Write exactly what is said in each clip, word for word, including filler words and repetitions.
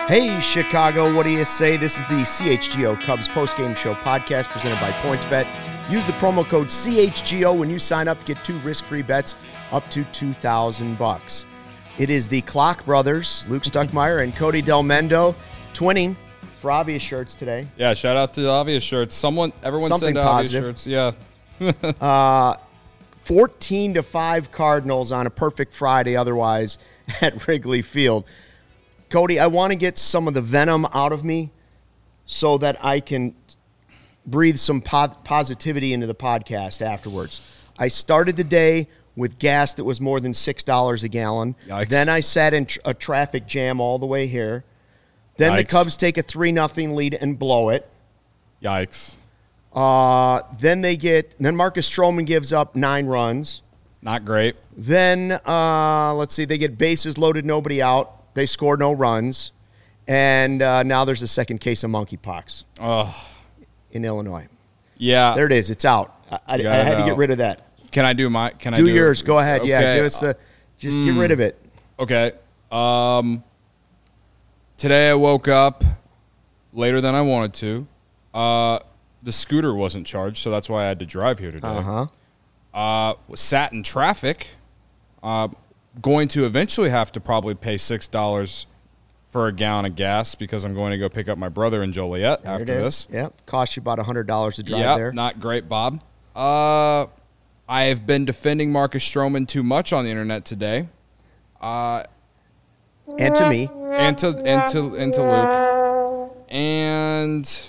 Hey, Chicago, what do you say? This is the C H G O Cubs postgame show podcast presented by PointsBet. Use the promo code C H G O when you sign up. Get two risk-free bets up to two thousand bucks. It is the Clock Brothers, Luke Stuckmeyer and Cody Delmendo, twinning for Obvious Shirts today. Yeah, shout out to Obvious Shirts. Someone, everyone Something send positive. Obvious Shirts. Yeah. uh, fourteen to five Cardinals on a perfect Friday otherwise at Wrigley Field. Cody, I want to get some of the venom out of me so that I can breathe some po- positivity into the podcast afterwards. I started the day with gas that was more than six dollars a gallon. Yikes. Then I sat in tr- a traffic jam all the way here. Then Yikes. the Cubs take a three nothing lead and blow it. Yikes. Uh, then they get, then Marcus Stroman gives up nine runs. Not great. Then, uh, let's see, they get bases loaded, nobody out. They score no runs. And uh, now there's a second case of monkeypox Oh, in Illinois. yeah. There it is. It's out. I, I, I Got it had to get out. rid of that. Can I do my? Can I Do, do yours. Go ahead. Okay. Yeah, give us the, just get rid of it. Okay. Um. Today I woke up later than I wanted to. Uh, the scooter wasn't charged, so that's why I had to drive here today. Uh-huh. Uh, sat in traffic. Uh, going to eventually have to probably pay six dollars for a gallon of gas because I'm going to go pick up my brother in Joliet There after it is. this. Yep. Cost you about one hundred dollars to drive Yep, there. not great, Bob. Uh, I have been defending Marcus Stroman too much on the internet today. Uh, and to me. and to and to and to Luke. And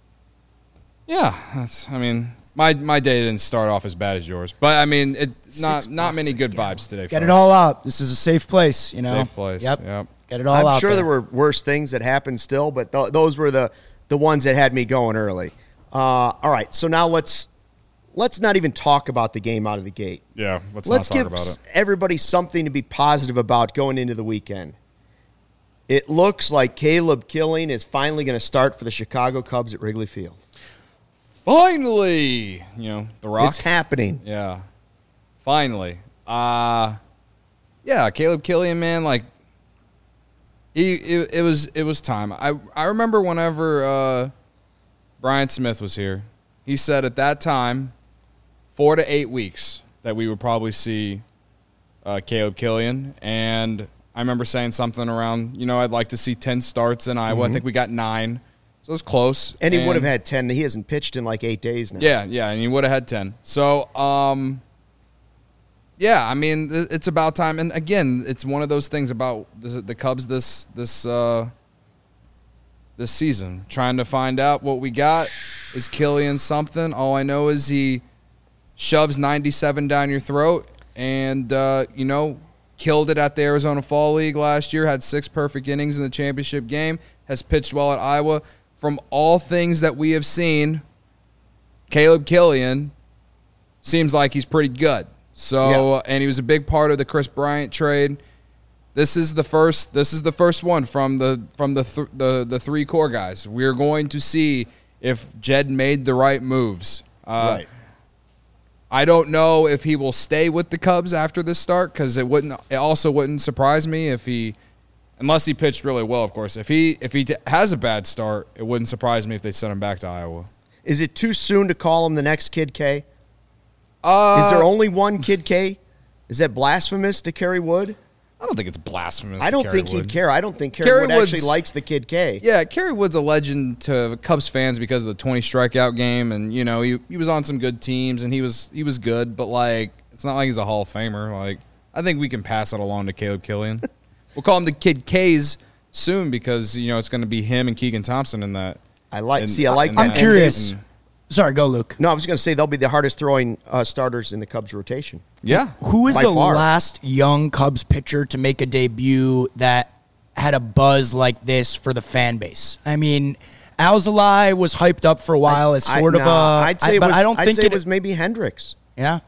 yeah, that's I mean, my my day didn't start off as bad as yours. But I mean, it not Six not many bucks a good gallon. vibes today. Get folks. it all out. This is a safe place, you know. Safe place. Yep. Yep. Get it all I'm out. sure there. there were worse things that happened still, but th- those were the, the ones that had me going early. Uh, all right, so now let's let's not even talk about the game out of the gate. Yeah, let's, Let's not talk give about it. everybody something to be positive about going into the weekend. It looks like Caleb Killing is finally going to start for the Chicago Cubs at Wrigley Field. Finally, you know, the Rock. It's happening. Yeah. Finally. Uh yeah, Caleb Killian, man, like he it, it was it was time. I I remember whenever uh Brian Smith was here, he said at that time four to eight weeks that we would probably see uh, Caleb Killian, and I remember saying something around, you know, I'd like to see ten starts in Iowa. Mm-hmm. I think we got nine. So it was close. And he would have had ten. He hasn't pitched in like eight days now. Yeah, yeah, and he would have had ten. So, um, yeah, I mean, th- it's about time. And again, it's one of those things about the, the Cubs this this uh, this season, trying to find out what we got. Is Killian something? All I know is he shoves ninety-seven down your throat, and uh, you know, killed it at the Arizona Fall League last year. Had six perfect innings in the championship game. Has pitched well at Iowa. From all things that we have seen, Caleb Killian seems like he's pretty good. So, Yeah. and he was a big part of the Chris Bryant trade. This is the first. This is the first one from the from the th- the the three core guys. We're going to see if Jed made the right moves. Uh, Right. I don't know if he will stay with the Cubs after this start, because it wouldn't. It also wouldn't surprise me if he, unless he pitched really well, of course. If he if he t- has a bad start, it wouldn't surprise me if they send him back to Iowa. Is it too soon to call him the next Kid K? Uh, Is there only one Kid K? Is that blasphemous to Kerry Wood? I don't think it's blasphemous. I to don't Kerry think Wood. he'd care. I don't think Kerry, Kerry Wood actually Wood's- likes the Kid K. Yeah, Kerry Wood's a legend to Cubs fans because of the twenty strikeout game, and you know he he was on some good teams and he was he was good, but like it's not like he's a Hall of Famer. Like I think we can pass it along to Caleb Killian. We'll call him the Kid K's soon because you know it's going to be him and Keegan Thompson in that. I like. in- see, I like in that. I'm that- curious. and- Sorry, go, Luke. No, I was going to say they'll be the hardest throwing uh, starters in the Cubs rotation. yeah, Who is By the far. last young Cubs pitcher to make a debut that had a buzz like this for the fan base? I mean, Alzolay was hyped up for a while as I- sort of nah, a. I'd say I, it but was, I don't I'd think say it, it was maybe Hendricks. Yeah.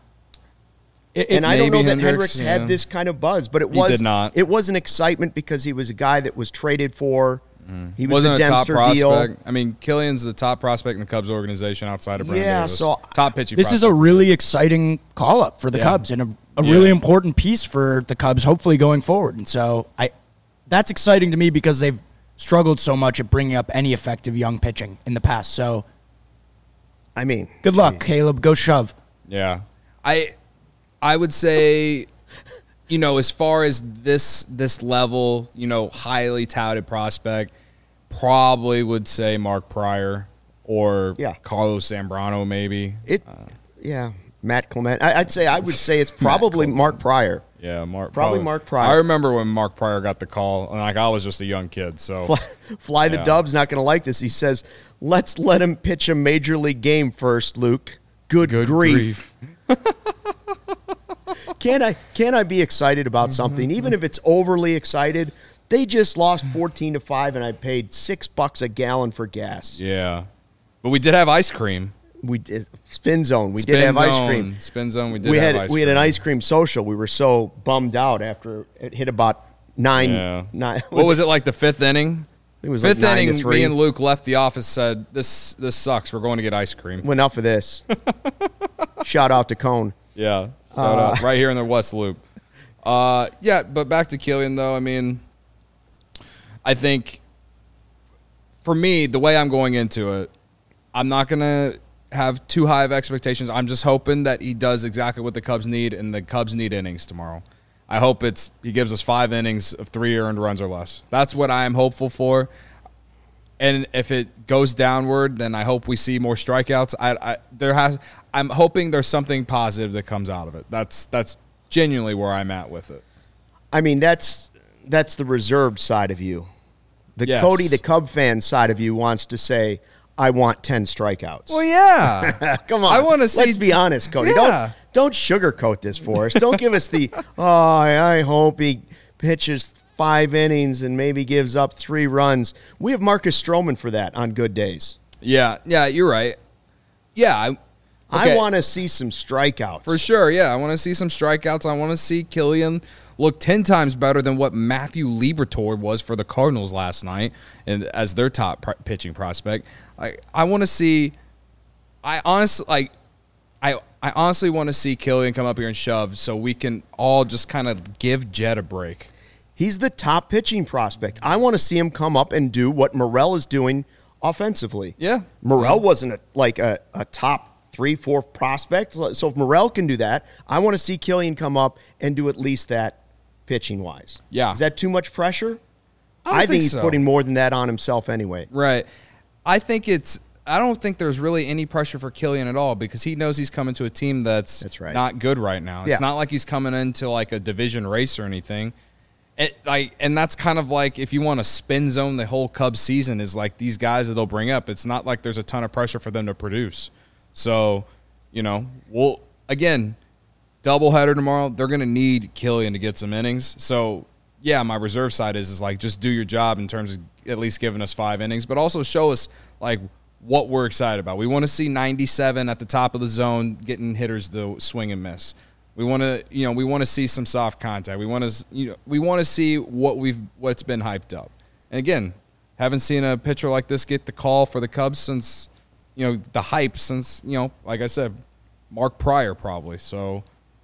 It, And I don't know maybe that Hendricks, Hendricks yeah. had this kind of buzz, but it He was did not. It was an excitement because he was a guy that was traded for. He was wasn't the a top Dempster prospect. deal. I mean, Killian's the top prospect in the Cubs organization outside of Brandon Yeah, Davis. so top pitching. this is a really exciting call up for the Yeah. Cubs and a, a Yeah. really important piece for the Cubs, hopefully going forward. And so I, that's exciting to me because they've struggled so much at bringing up any effective young pitching in the past. So, I mean, good luck, I mean, Caleb. Go shove. Yeah. I I would say, you know, as far as this this level, you know, highly touted prospect, probably would say Mark Pryor or Yeah. Carlos Zambrano maybe. it. Yeah, Matt Clement. I, I'd say I would say it's probably Mark Pryor. Yeah, Mark. Probably Mark Pryor. I remember when Mark Pryor got the call, and like I was just a young kid, so Fly, Fly the Yeah. Dub's not going to like this. He says, "Let's let him pitch a major league game first, Luke." Good, good grief. grief. Can I can I be excited about something, even if it's overly excited? They just lost fourteen to five, and I paid six bucks a gallon for gas. Yeah, but we did have ice cream. We did spin zone. We Spin did have ice zone. cream. Spin zone. We did. We have had ice we had an cream. ice cream social. We were so bummed out after it hit about nine. Yeah. nine What was it like? The fifth inning. It was like Fifth nine to inning. three. Me and Luke left the office. Said this this sucks. We're going to get ice cream. Well, enough of this. Shout out to Cone. Yeah. Shout Uh, out. Right here in the West Loop. Uh, yeah, but back to Killian, though. I mean, I think for me, the way I'm going into it, I'm not going to have too high of expectations. I'm just hoping that he does exactly what the Cubs need, and the Cubs need innings tomorrow. I hope it's he gives us five innings of three earned runs or less. That's what I am hopeful for. And if it goes downward, then I hope we see more strikeouts. I, I there has I'm hoping there's something positive that comes out of it. That's that's genuinely where I'm at with it. I mean, that's that's the reserved side of you. The Yes. Cody, the Cub fan side of you, wants to say, "I want ten strikeouts." Well, yeah. Come on, I wanna see- Let's be honest, Cody. Yeah. Don't don't sugarcoat this for us. Don't give us the. Oh, I I hope he pitches five innings and maybe gives up three runs. We have Marcus Stroman for that on good days. yeah, yeah, you're right. Yeah, I, I okay. want to see some strikeouts. For sure, yeah. I want to see some strikeouts. I want to see Killian look ten times better than what Matthew Liberatore was for the Cardinals last night and as their top pr- pitching prospect. I I want to see I honestly like I I honestly want to see Killian come up here and shove so we can all just kind of give Jed a break. He's the top pitching prospect. I want to see him come up and do what Morel is doing offensively. Yeah. Morel wasn't a, like a, a top three, four prospect. So if Morel can do that, I want to see Killian come up and do at least that pitching wise. Yeah. Is that too much pressure? I don't think, think he's so. putting more than that on himself anyway. Right. I think it's I don't think there's really any pressure for Killian at all because he knows he's coming to a team that's, That's right. not good right now. It's Yeah. not like he's coming into like a division race or anything. It, like, and that's kind of like if you want to spin zone the whole Cubs season is like these guys that they'll bring up. It's not like there's a ton of pressure for them to produce. So, you know, we'll again doubleheader tomorrow. They're going to need Killian to get some innings. So, yeah, my reserve side is is like just do your job in terms of at least giving us five innings, but also show us like what we're excited about. We want to see ninety-seven at the top of the zone, getting hitters to swing and miss. We want to, you know, we want to see some soft contact. We want to, you know, we want to see what we've what's been hyped up. And again, haven't seen a pitcher like this get the call for the Cubs since, you know, the hype since, you know, like I said, Mark Pryor probably. So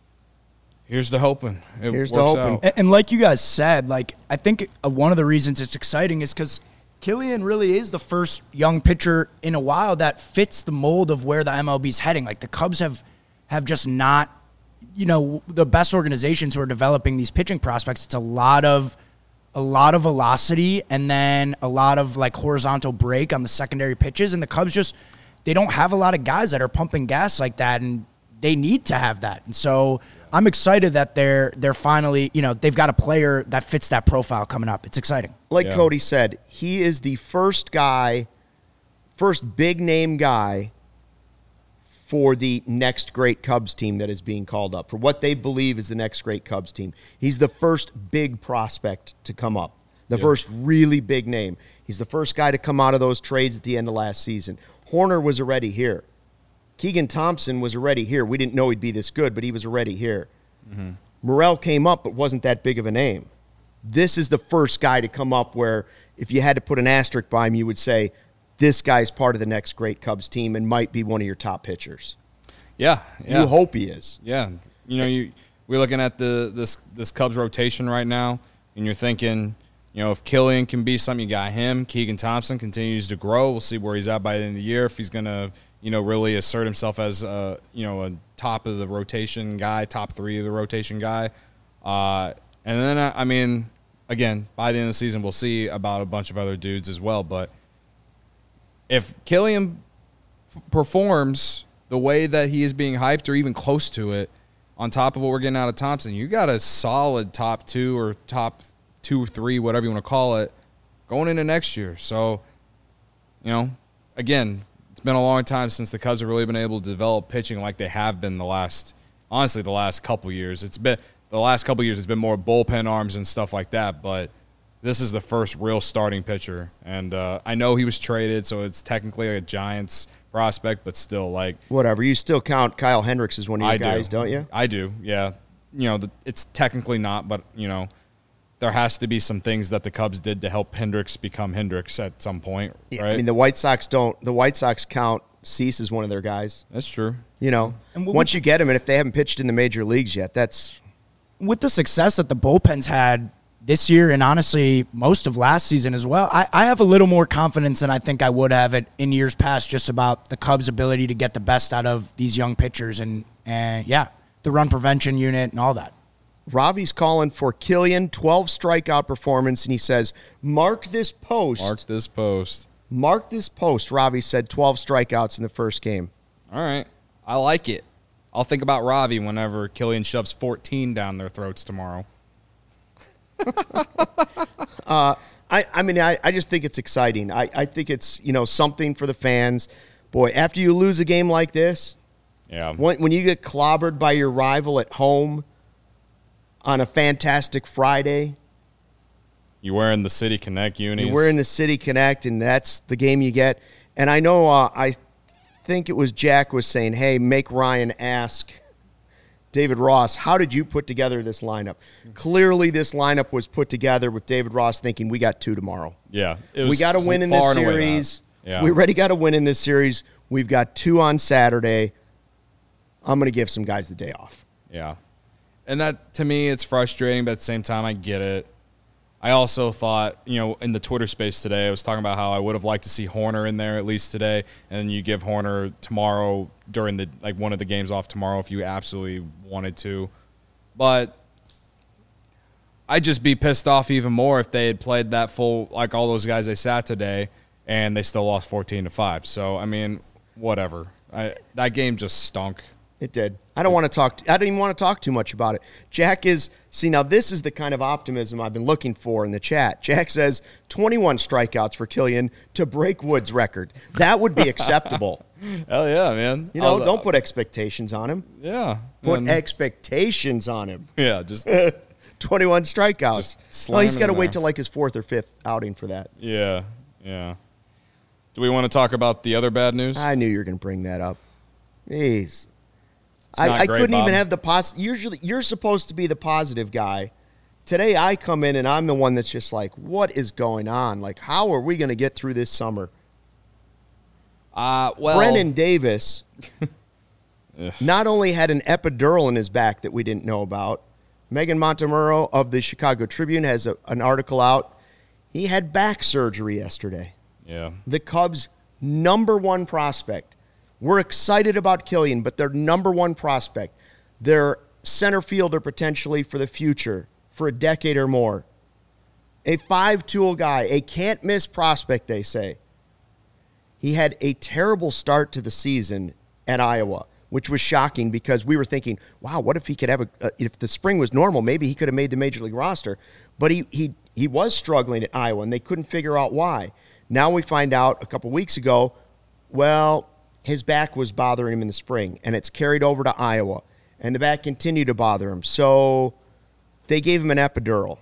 here's the hoping. It Here's the works hoping. out. And, and like you guys said, like I think uh, one of the reasons it's exciting is because Killian really is the first young pitcher in a while that fits the mold of where the M L B's heading. Like the Cubs have have just not, you know, the best organizations who are developing these pitching prospects. It's a lot of a lot of velocity and then a lot of like horizontal break on the secondary pitches. And the Cubs just they don't have a lot of guys that are pumping gas like that, and they need to have that. And so I'm excited that they're they're finally, you know, they've got a player that fits that profile coming up. It's exciting. Like Yeah. Cody said, he is the first guy, first big name guy for the next great Cubs team that is being called up, for what they believe is the next great Cubs team. He's the first big prospect to come up, the first really big name. He's the first guy to come out of those trades at the end of last season. Horner was already here. Keegan Thompson was already here. We didn't know he'd be this good, but he was already here. Mm-hmm. Morel came up, but wasn't that big of a name. This is the first guy to come up where if you had to put an asterisk by him, you would say, this guy's part of the next great Cubs team and might be one of your top pitchers. Yeah, yeah. You hope he is. Yeah, you know, you we're looking at the this this Cubs rotation right now, and you're thinking, you know, if Killian can be something, you got him. Keegan Thompson continues to grow. We'll see where he's at by the end of the year. If he's going to, you know, really assert himself as, a, you know, a top of the rotation guy, top three of the rotation guy. Uh, and then, I mean, again, by the end of the season, we'll see about a bunch of other dudes as well. But if Killian f- performs the way that he is being hyped or even close to it, on top of what we're getting out of Thompson, you got a solid top two or top two or three, whatever you want to call it, going into next year. So, you know, again, it's been a long time since the Cubs have really been able to develop pitching like they have been the last, honestly, the last couple years. It's been the last couple years. It's been more bullpen arms and stuff like that, but this is the first real starting pitcher. And uh, I know he was traded, so it's technically a Giants prospect, but still, like, whatever. You still count Kyle Hendricks as one of your I guys, do. don't you? I do, yeah. You know, the, it's technically not, but, you know, there has to be some things that the Cubs did to help Hendricks become Hendricks at some point, Yeah, right? I mean, the White Sox don't. The White Sox count Cease as one of their guys. That's true. You know, And what once we- you get him, and if they haven't pitched in the major leagues yet, that's With the success that the bullpens had this year and honestly most of last season as well, I, I have a little more confidence than I think I would have it in years past just about the Cubs' ability to get the best out of these young pitchers and, and yeah, the run prevention unit and all that. Ravi's calling for Killian, twelve strikeout performance, and he says, mark this post. Mark this post. Mark this post. Ravi said twelve strikeouts in the first game. All right. I like it. I'll think about Ravi whenever Killian shoves fourteen down their throats tomorrow. uh, I, I mean, I, I just think it's exciting. I, I think it's, you know, something for the fans. Boy, after you lose a game like this, Yeah. when, when you get clobbered by your rival at home on a fantastic Friday, You're wearing the City Connect unis. we're in the City Connect, and that's the game you get. And I know uh, I think it was Jack was saying, hey, make Ryan ask David Ross, how did you put together this lineup? Clearly, this lineup was put together with David Ross thinking we got two tomorrow. Yeah. It was We got to win in far this and away series. that. Yeah. We already got to win in this series. We've got two on Saturday. I'm going to give some guys the day off. Yeah. And that, to me, it's frustrating, but at the same time, I get it. I also thought, you know, in the Twitter space today, I was talking about how I would have liked to see Horner in there at least today, and then you give Horner tomorrow during the, like, one of the games off tomorrow if you absolutely wanted to. But I'd just be pissed off even more if they had played that full, like all those guys they sat today, and they still lost fourteen to five. So, I mean, whatever. I, that game just stunk. It did. I don't want to talk. I don't even want to talk too much about it. Jack is see now. This is the kind of optimism I've been looking for in the chat. Jack says twenty-one strikeouts for Killian to break Wood's record. That would be acceptable. Hell yeah, man. You know, I'll- don't put expectations on him. Yeah. Put And- expectations on him. yeah, just twenty-one strikeouts. Just Well, slam he's it got to in wait there. till like his fourth or fifth outing for that. yeah, yeah. Do we want to talk about the other bad news? I knew you were going to bring that up. Jeez. not I, I great, couldn't Bob. even have the pos. Usually, you're supposed to be the positive guy. Today, I come in and I'm the one that's just like, what is going on? Like, how are we going to get through this summer? Uh, well, Brennan Davis not only had an epidural in his back that we didn't know about. Megan Montemurro of the Chicago Tribune has a, an article out. He had back surgery yesterday. Yeah. The Cubs' number one prospect. We're excited about Killian, but their number one prospect, their center fielder potentially for the future, for a decade or more. A five-tool guy, a can't-miss prospect, they say. He had a terrible start to the season at Iowa, which was shocking because we were thinking, wow, what if he could have a, uh, if the spring was normal, maybe he could have made the Major League roster. But he he he was struggling at Iowa, and they couldn't figure out why. Now we find out a couple weeks ago, well, his back was bothering him in the spring, and it's carried over to Iowa, and the back continued to bother him. So they gave him an epidural,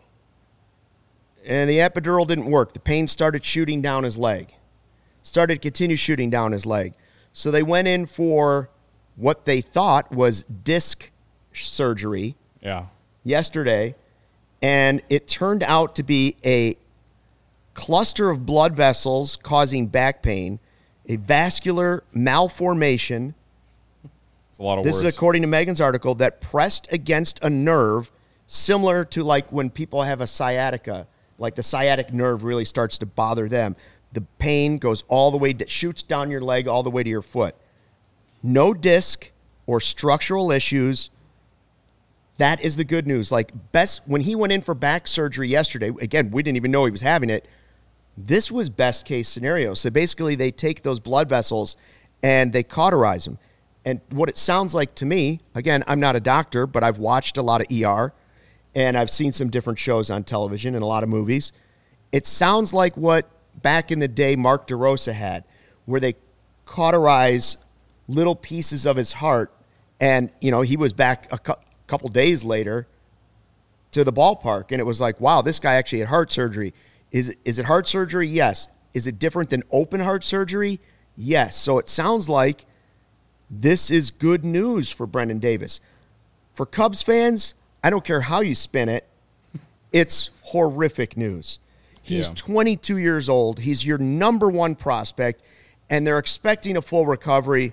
and the epidural didn't work. The pain started shooting down his leg, started to continue shooting down his leg. So they went in for what they thought was disc surgery Yeah. yesterday, and it turned out to be a cluster of blood vessels causing back pain, a vascular malformation. It's a lot of This words. is according to Megan's article, that pressed against a nerve similar to like when people have a sciatica, like the sciatic nerve really starts to bother them. The pain goes all the way, shoots down your leg all the way to your foot. No disc or structural issues. That is the good news. Like, best when he went in for back surgery yesterday, again, we didn't even know he was having it. This was best case scenario. So basically they take those blood vessels and they cauterize them. And what it sounds like to me, again, I'm not a doctor, but I've watched a lot of E R and I've seen some different shows on television and a lot of movies. It sounds like what back in the day Mark DeRosa had, where they cauterize little pieces of his heart. And, you know, he was back a cu- couple days later to the ballpark. And it was like, wow, this guy actually had heart surgery. Is it, is it heart surgery? Yes. Is it different than open heart surgery? Yes. So it sounds like this is good news for Brendan Davis. For Cubs fans, I don't care how you spin it, it's horrific news. He's yeah. twenty-two years old. He's your number one prospect, and they're expecting a full recovery.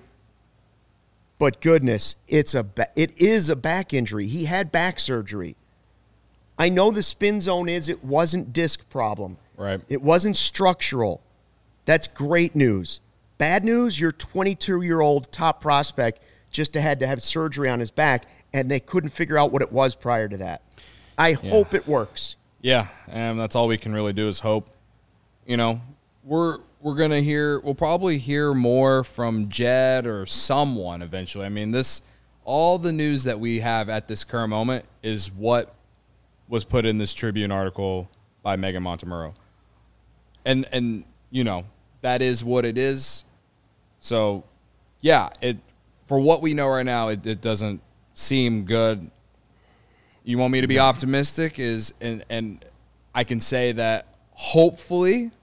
But goodness, it's a ba- it is a back injury. He had back surgery. I know the spin zone is it wasn't disc problem. Right. It wasn't structural. That's great news. Bad news, your twenty-two-year-old top prospect just had to have surgery on his back, and they couldn't figure out what it was prior to that. I yeah. hope it works. Yeah, and that's all we can really do is hope. You know, we're we're going to hear, we'll probably hear more from Jed or someone eventually. I mean, this, all the news that we have at this current moment is what was put in this Tribune article by Megan Montemurro. And, and you know, that is what it is. So, yeah, it for what we know right now, it, it doesn't seem good. You want me to be optimistic is and and I can say that hopefully,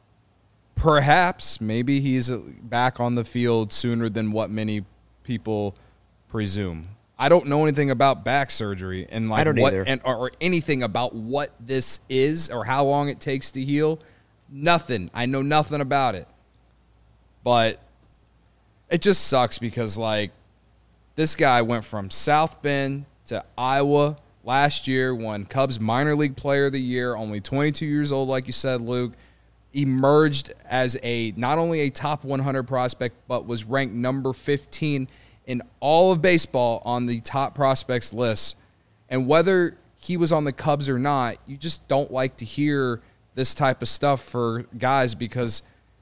perhaps, maybe he's back on the field sooner than what many people presume. I don't know anything about back surgery and like I don't what either. and or, or anything about what this is or how long it takes to heal. Nothing. I know nothing about it. But it just sucks because like this guy went from South Bend to Iowa last year, won Cubs minor league player of the year, only twenty-two years old, like you said, Luke, emerged as a not only a top one hundred prospect, but was ranked number fifteen in all of baseball on the top prospects list. And whether he was on the Cubs or not, you just don't like to hear this type of stuff for guys because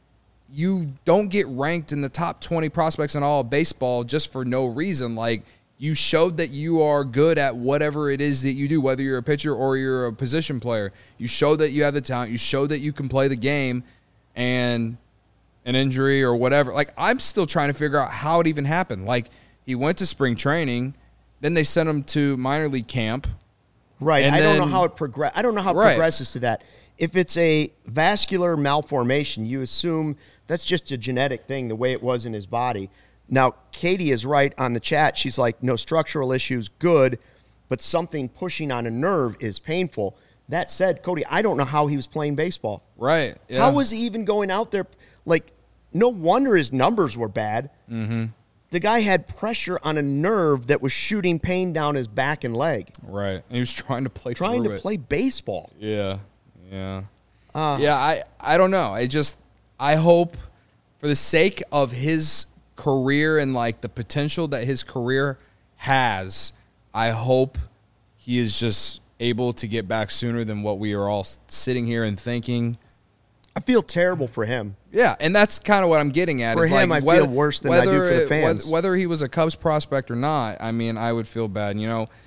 you don't get ranked in the top twenty prospects in all of baseball just for no reason. Like, you showed that you are good at whatever it is that you do, whether you're a pitcher or you're a position player. You showed that you have the talent. You showed that you can play the game, and an injury or whatever. Like, I'm still trying to figure out how it even happened. Like, he went to spring training, then they sent him to minor league camp. Right. And I then, don't know how it progress. I don't know how it right. progresses to that. If it's a vascular malformation, you assume that's just a genetic thing, the way it was in his body. Now, Katie is right on the chat. She's like, no structural issues, good, but something pushing on a nerve is painful. That said, Cody, I don't know how he was playing baseball. Right. Yeah. How was he even going out there? Like, no wonder his numbers were bad. Mm-hmm. The guy had pressure on a nerve that was shooting pain down his back and leg. Right. And he was trying to play Trying through to it. play baseball. Yeah. Yeah. Uh, yeah, I, I don't know. I just, I hope for the sake of his career and like the potential that his career has, I hope he is just able to get back sooner than what we are all sitting here and thinking. I feel terrible for him. Yeah, and that's kind of what I'm getting at. For is him, like I whether, feel worse than I do for the it- fans. Whether, whether he was a Cubs prospect or not, I mean, I would feel bad. You know,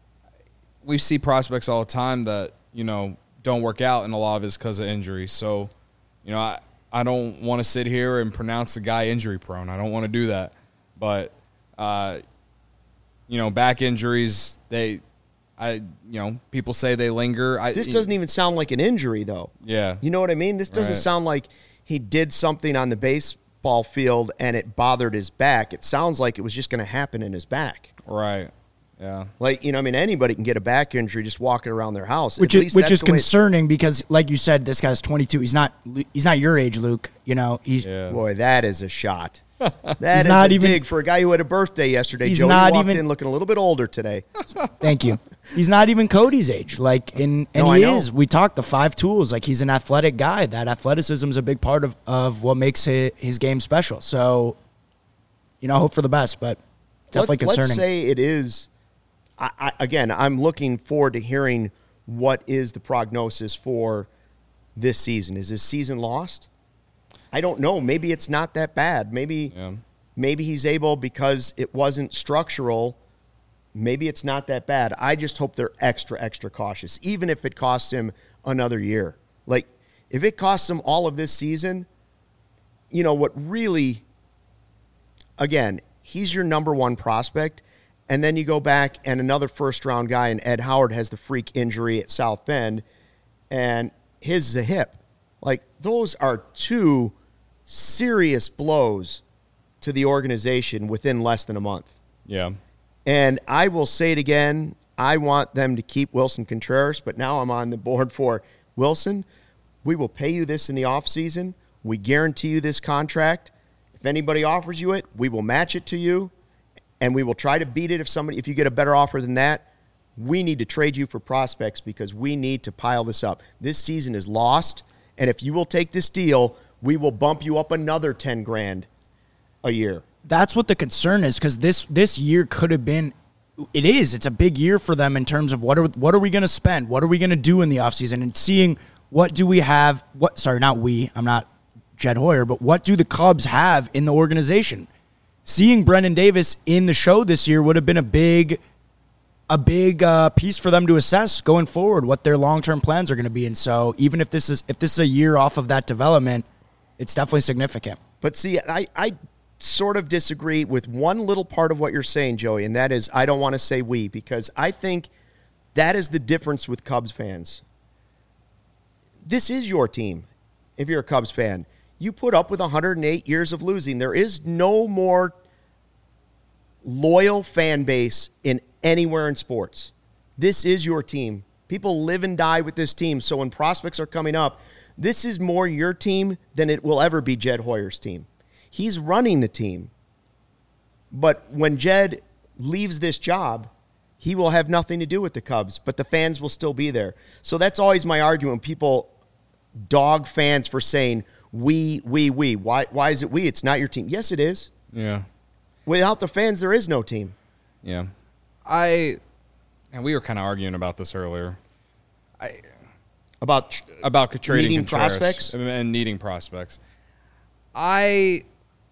we see prospects all the time that, you know, don't work out, and a lot of it's because of injury. So, you know, I, I don't want to sit here and pronounce the guy injury prone. I don't want to do that. But, uh, you know, back injuries, they, I, you know, people say they linger. I, This doesn't even sound like an injury, though. Yeah. You know what I mean? This doesn't Right. sound like he did something on the baseball field and it bothered his back. It sounds like it was just going to happen in his back. Right. Yeah. Like, you know, I mean, anybody can get a back injury just walking around their house. Which At is least which that's is the way it's- concerning because, like you said, this guy's twenty-two. He's not he's not your age, Luke. You know, he's Yeah. Boy, that is a shot. That He's is not a even- dig for a guy who had a birthday yesterday. He's Joey not walked even- in looking a little bit older today. Thank you. He's not even Cody's age. Like, in, and No, I he know. is. We talked the five tools. Like, he's an athletic guy. That athleticism is a big part of, of what makes his, his game special. So, you know, hope for the best, but definitely let's, concerning. Let's say it is. I, I, again, I'm looking forward to hearing what is the prognosis for this season. Is this season lost? I don't know. Maybe it's not that bad. Maybe Yeah. maybe he's able because it wasn't structural. Maybe it's not that bad. I just hope they're extra, extra cautious, even if it costs him another year. Like, if it costs him all of this season, you know, what really, again, he's your number one prospect, and then you go back and another first-round guy in Ed Howard has the freak injury at South Bend, and his is a hip. Like, those are two serious blows to the organization within less than a month. Yeah. And I will say it again, I want them to keep Wilson Contreras, but now I'm on the board for Wilson. We will pay you this in the offseason. We guarantee you this contract. If anybody offers you it, we will match it to you, and we will try to beat it if somebody if you get a better offer than that. We need to trade you for prospects because we need to pile this up. This season is lost, and if you will take this deal, we will bump you up another ten grand a year. That's what the concern is, because this this year could have been it is it's a big year for them in terms of what are what are we going to spend, what are we going to do in the offseason, and seeing what do we have what sorry not we I'm not Jed Hoyer, but what do the Cubs have in the organization? Seeing Brendan Davis in the show this year would have been a big a big uh, piece for them to assess going forward what their long-term plans are going to be. And so even if this is if this is a year off of that development, it's definitely significant. But see, I, I sort of disagree with one little part of what you're saying, Joey, and that is I don't want to say we, because I think that is the difference with Cubs fans. This is your team, if you're a Cubs fan. You put up with one hundred eight years of losing. There is no more loyal fan base in anywhere in sports. This is your team. People live and die with this team. So when prospects are coming up, this is more your team than it will ever be Jed Hoyer's team. He's running the team. But when Jed leaves this job, he will have nothing to do with the Cubs, but the fans will still be there. So that's always my argument when people dog fans for saying, we, we, we. Why, why is it we? It's not your team. Yes, it is. Yeah. Without the fans, there is no team. Yeah. I, and we were kind of arguing about this earlier. I About tr- about trading Needing Contreras prospects? and needing prospects. I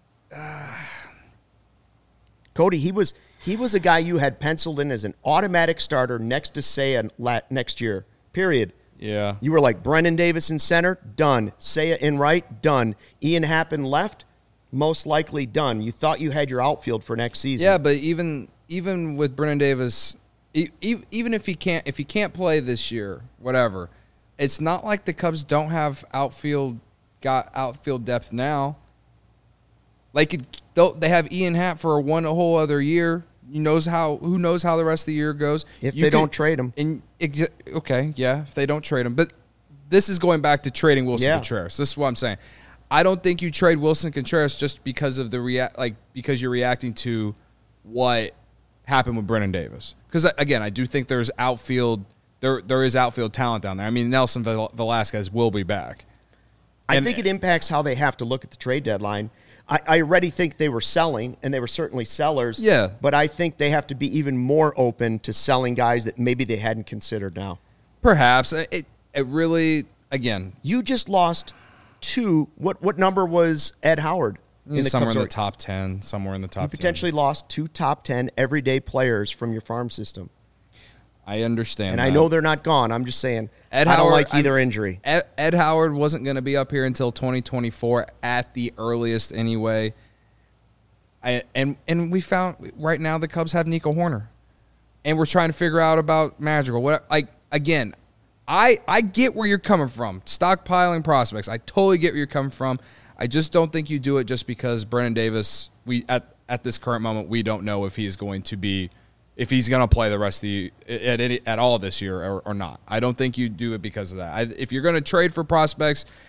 Cody, he was he was a guy you had penciled in as an automatic starter next to Seiya la- next year, period. yeah. You were like, Brendan Davis in center, done. Seiya in right, done. Ian Happ in left, most likely done. You thought you had your outfield for next season. Yeah, but even even with Brennan Davis, e- e- even if he can't if he can't play this year, whatever, it's not like the Cubs don't have outfield got outfield depth now. Like it, they'll- they have Ian Happ for one whole other year. Who knows how? Who knows how the rest of the year goes? If You they could- don't trade him. And ex- okay, yeah, if they don't trade him, but this is going back to trading Wilson Yeah. Contreras. This is what I'm saying. I don't think you trade Wilson Contreras just because of the rea- like because you're reacting to what happened with Brennan Davis. Because again, I do think there's outfield there there is outfield talent down there. I mean, Nelson Vel- Velasquez will be back. I And- think it impacts how they have to look at the trade deadline. I, I already think they were selling, and they were certainly sellers. Yeah. But I think they have to be even more open to selling guys that maybe they hadn't considered now. Perhaps it it really again You just lost two. What what number was Ed Howard? In the somewhere Cubs in the org- top ten, somewhere in the top You potentially lost two top ten everyday players from your farm system. ten. I understand, And that. I know they're not gone. I'm just saying, Ed I don't Howard- like either I'm- injury. Ed, Ed Howard wasn't going to be up here until twenty twenty-four at the earliest anyway. I, and and we found right now the Cubs have Nico Horner, and we're trying to figure out about Madrigal. What like again, I I get where you're coming from. Stockpiling prospects, I totally get where you're coming from. I just don't think you do it just because Brennan Davis. We at at this current moment we don't know if he is going to be. If he's going to play the rest of the at any, at all this year or, or not. I don't think you do it because of that. I, if you're going to trade for prospects,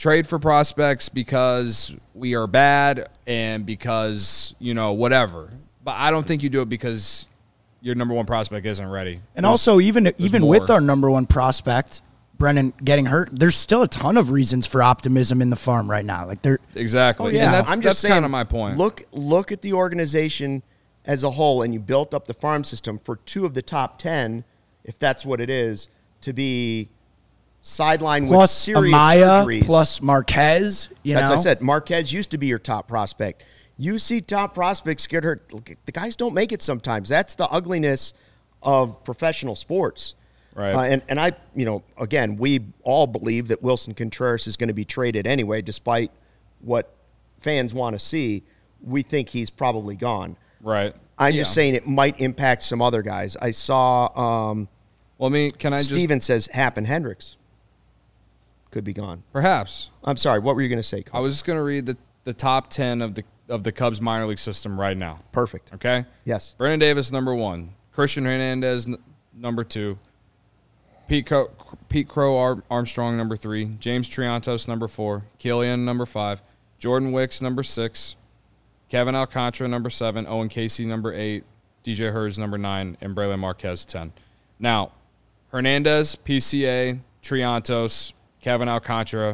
trade for prospects because we are bad and because, you know, whatever. But I don't think you do it because your number one prospect isn't ready. And There's, also, even even more. with our number one prospect, Brennan, getting hurt, there's still a ton of reasons for optimism in the farm right now. Like there, Exactly. Oh, yeah. And that's, I'm just that's kind saying, of my point. Look, look at the organization as a whole, and you built up the farm system for two of the top ten, if that's what it is, to be sidelined with plus serious Amaya, surgeries. plus Marquez. You That's know, what I said. Marquez used to be your top prospect. You see top prospects get hurt. Look, the guys don't make it sometimes. That's the ugliness of professional sports. Right. Uh, and, and I, you know, again, we all believe that Wilson Contreras is going to be traded anyway, despite what fans want to see. We think he's probably gone. Right. I'm Yeah. just saying it might impact some other guys. I saw um, Well, I mean, can I just... Steven says Happen Hendricks could be gone. Perhaps. I'm sorry. What were you going to say, I Cole? was just going to read the, the top ten of the of the Cubs minor league system right now. Perfect. Okay? Yes. Brennan Davis, number one. Christian Hernandez, n- number two. Pete, Co- Pete Crow Ar- Armstrong, number three. James Triantos, number four. Killian, number five. Jordan Wicks, number six. Kevin Alcantara, number seven. Owen Casey, number eight. D J Hurds, number nine. And Braylon Marquez, ten. Now, Hernandez, P C A, Triantos, Kevin Alcantara,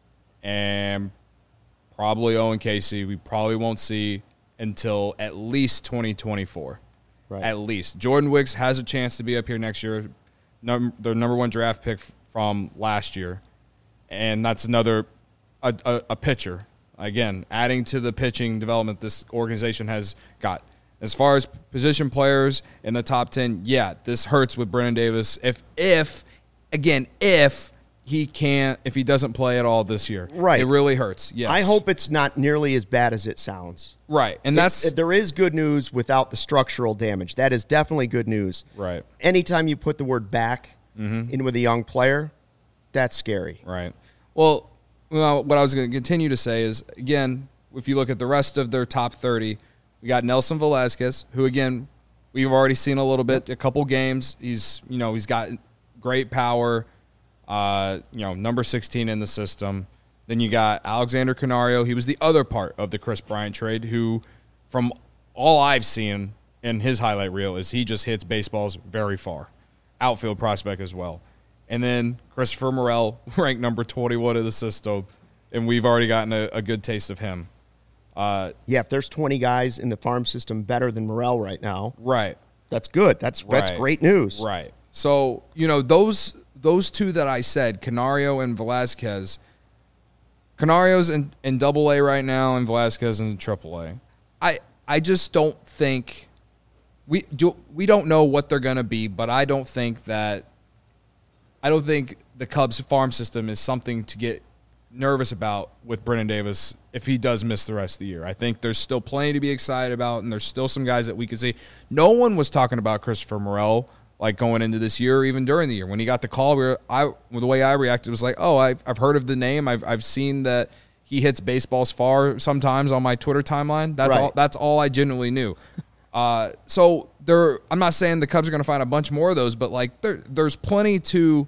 and probably Owen Casey, we probably won't see until at least twenty twenty-four. Right. At least. Jordan Wicks has a chance to be up here next year. Num- the number one draft pick f- from last year. And that's another, a, a, a pitcher. Again, adding to the pitching development this organization has got. As far as position players in the top ten, yeah, this hurts with Brennan Davis. If, if, again, if he can't, if he doesn't play at all this year. Right. It really hurts, yes. I hope it's not nearly as bad as it sounds. Right, and It's- that's... there is good news without the structural damage. That is definitely good news. Right. Anytime you put the word back Mm-hmm. in with a young player, that's scary. Right. Well, well what I was going to continue to say is, again, if you look at the rest of their top thirty, we got Nelson Velasquez, who, again, we've already seen a little bit, a couple games. He's, you know, he's got great power, uh, you know, number sixteen in the system. Then you got Alexander Canario. He was the other part of the Chris Bryant trade, who, from all I've seen in his highlight reel, is he just hits baseballs very far. Outfield prospect as well. And then Christopher Morel, ranked number twenty-one in the system, and we've already gotten a, a good taste of him. Uh, Yeah, if there's twenty guys in the farm system better than Morel right now, right. that's good. That's that's Right. great news. Right. So, you know, those those two that I said, Canario and Velasquez, Canario's in, in double A right now and Velasquez in triple A. I I just don't think we do we don't know what they're gonna be, but I don't think that I don't think the Cubs farm system is something to get nervous about with Brennan Davis if he does miss the rest of the year. I think there's still plenty to be excited about, and there's still some guys that we could see. No one was talking about Christopher Morel like going into this year, or even during the year. When he got the call, we were, I the way I reacted was like, oh, I've, I've heard of the name. I've I've seen that he hits baseballs far sometimes on my Twitter timeline. That's Right. all. That's all I genuinely knew. Uh, so there, I'm not saying the Cubs are going to find a bunch more of those, but like there, there's plenty to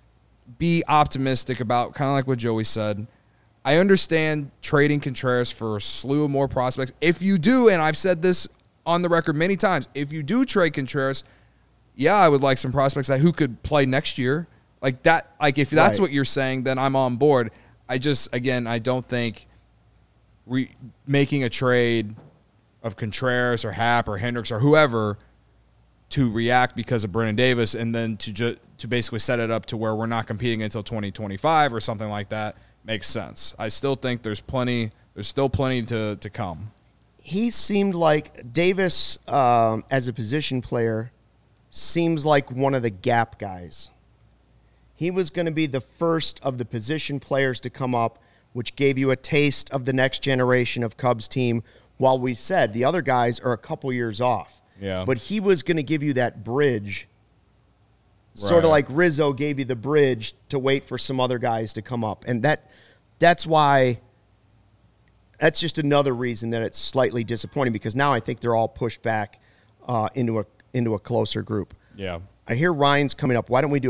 be optimistic about, kind of like what Joey said. I understand trading Contreras for a slew of more prospects. If you do, and I've said this on the record many times, if you do trade Contreras, yeah, I would like some prospects that who could play next year. Like that, like if that's Right. what you're saying, then I'm on board. I just, again, I don't think re- making a trade of Contreras or Happ or Hendricks or whoever to react because of Brennan Davis and then to ju- to basically set it up to where we're not competing until twenty twenty-five or something like that makes sense. I still think there's plenty there's still plenty to, to come. He seemed like Davis, um, as a position player, seems like one of the gap guys. He was going to be the first of the position players to come up, which gave you a taste of the next generation of Cubs team, while we said the other guys are a couple years off. Yeah. But he was going to give you that bridge, sort of Right. like Rizzo gave you the bridge to wait for some other guys to come up. And that that's why that's just another reason that it's slightly disappointing, because now I think they're all pushed back uh, into a into a closer group. Yeah. I hear Ryan's coming up. Why don't we do a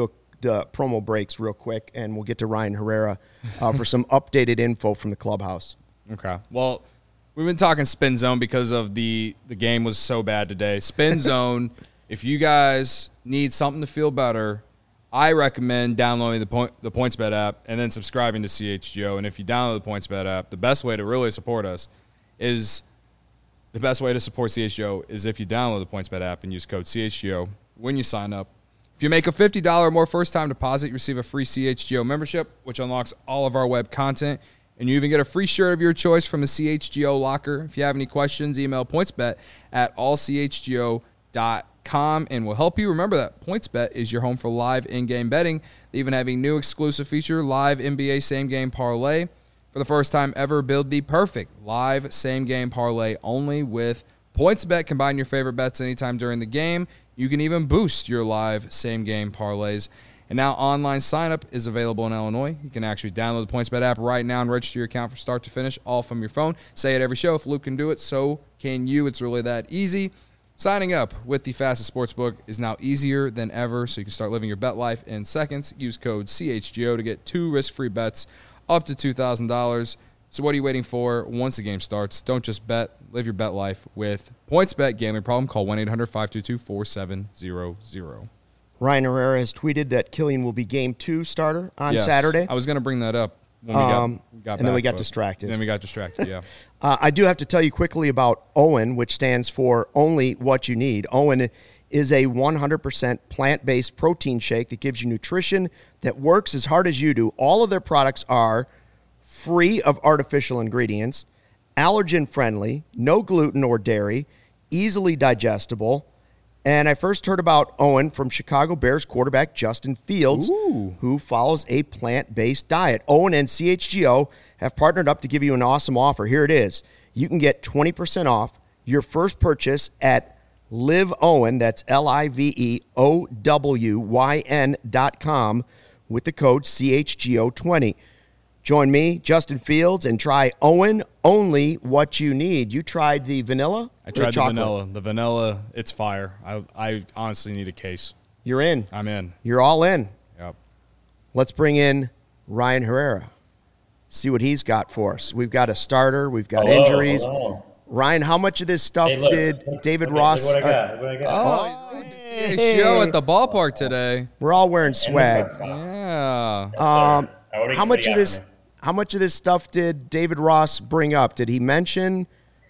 the promo breaks real quick, and we'll get to Ryan Herrera uh, for some updated info from the clubhouse. Okay. Well, we've been talking Spin Zone because of the the game was so bad today. Spin Zone, if you guys need something to feel better, I recommend downloading the point the PointsBet app and then subscribing to C H G O. And if you download the PointsBet app, the best way to really support us is the best way to support C H G O is if you download the PointsBet app and use code C H G O when you sign up. If you make a fifty dollars or more first-time deposit, you receive a free C H G O membership, which unlocks all of our web content. And you even get a free shirt of your choice from the C H G O locker. If you have any questions, email pointsbet at all c h g o dot com and we'll help you. Remember that PointsBet is your home for live in-game betting. They even have a new exclusive feature, live N B A same-game parlay. For the first time ever, build the perfect live same-game parlay only with PointsBet. Combine your favorite bets anytime during the game. You can even boost your live same-game parlays. And now online sign-up is available in Illinois. You can actually download the PointsBet app right now and register your account from start to finish, all from your phone. Say it every show. If Luke can do it, so can you. It's really that easy. Signing up with the fastest sportsbook is now easier than ever, so you can start living your bet life in seconds. Use code C H G O to get two risk-free bets up to two thousand dollars. So what are you waiting for? Once the game starts, don't just bet. Live your bet life with PointsBet. Gambling problem? Call one eight hundred five two two four seven zero zero. Ryan Herrera has tweeted that Killian will be game two starter on Yes, Saturday. I was going to bring that up when we got, Um, we got and back, then we got but- distracted. Then we got distracted, yeah. Uh, I do have to tell you quickly about OWYN, which stands for Only What You Need. OWYN is a one hundred percent plant-based protein shake that gives you nutrition that works as hard as you do. All of their products are free of artificial ingredients, allergen-friendly, no gluten or dairy, easily digestible. And I first heard about OWYN from Chicago Bears quarterback Justin Fields, Ooh. who follows a plant-based diet. OWYN and C H G O have partnered up to give you an awesome offer. Here it is. You can get twenty percent off your first purchase at LiveOWYN, that's L I V E O W Y N dot com, with the code C H G O twenty. Join me, Justin Fields, and try OWYN, only what you need. You tried the vanilla? I or tried the chocolate? vanilla. The vanilla, it's fire. I I honestly need a case. You're in. I'm in. You're all in. Yep. Let's bring in Ryan Herrera. See what he's got for us. We've got a starter. We've got Hello, injuries. hello. Ryan, how much of this stuff Hey, look, did look, David look, Ross? Look what I uh, got. Look what I got. Oh, he's a show at the ballpark today. we're all wearing And the swag. press conference. Yeah. Yes, Um, sir. What do you- how what much do you of got this? for me? How much of this stuff did David Ross bring up? Did he mention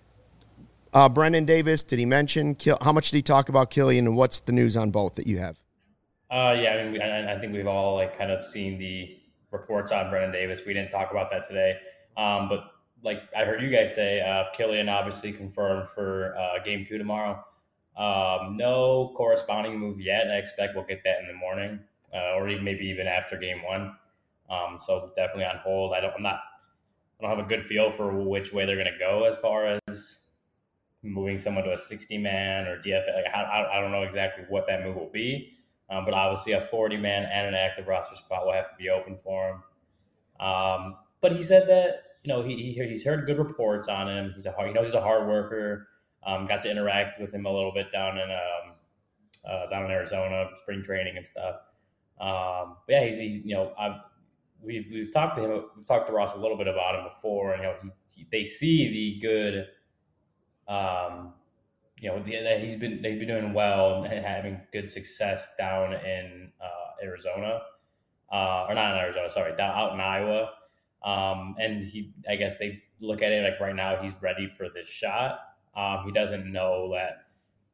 uh, Brendan Davis? Did he mention Kill? How much did he talk about Killian? And what's the news on both that you have? Uh, yeah, I mean, I, I think we've all like kind of seen the reports on Brendan Davis. We didn't talk about that today, um, but like I heard you guys say, uh, Killian obviously confirmed for uh, game two tomorrow. Um, no corresponding move yet. I expect we'll get that in the morning, uh, or even maybe even after game one. Um, so definitely on hold. I don't. I'm not. I don't have a good feel for which way they're going to go as far as moving someone to a sixty man or D F A. Like, I, I don't know exactly what that move will be. Um, but obviously, a forty man and an active roster spot will have to be open for him. Um, but he said that you know he, he he's heard good reports on him. He's a hard, he knows he's a hard worker. Um, got to interact with him a little bit down in um, uh, down in Arizona, spring training and stuff. Um, but yeah, he's, he's you know I've. We've, we've talked to him, we've talked to Ross a little bit about him before, and, you know, he, he, they see the good, um, you know, the, that he's been, they've been doing well and having good success down in uh, Arizona, uh, or not in Arizona, sorry, down out in Iowa. Um, and he, I guess they look at it like right now he's ready for this shot. Um, he doesn't know that,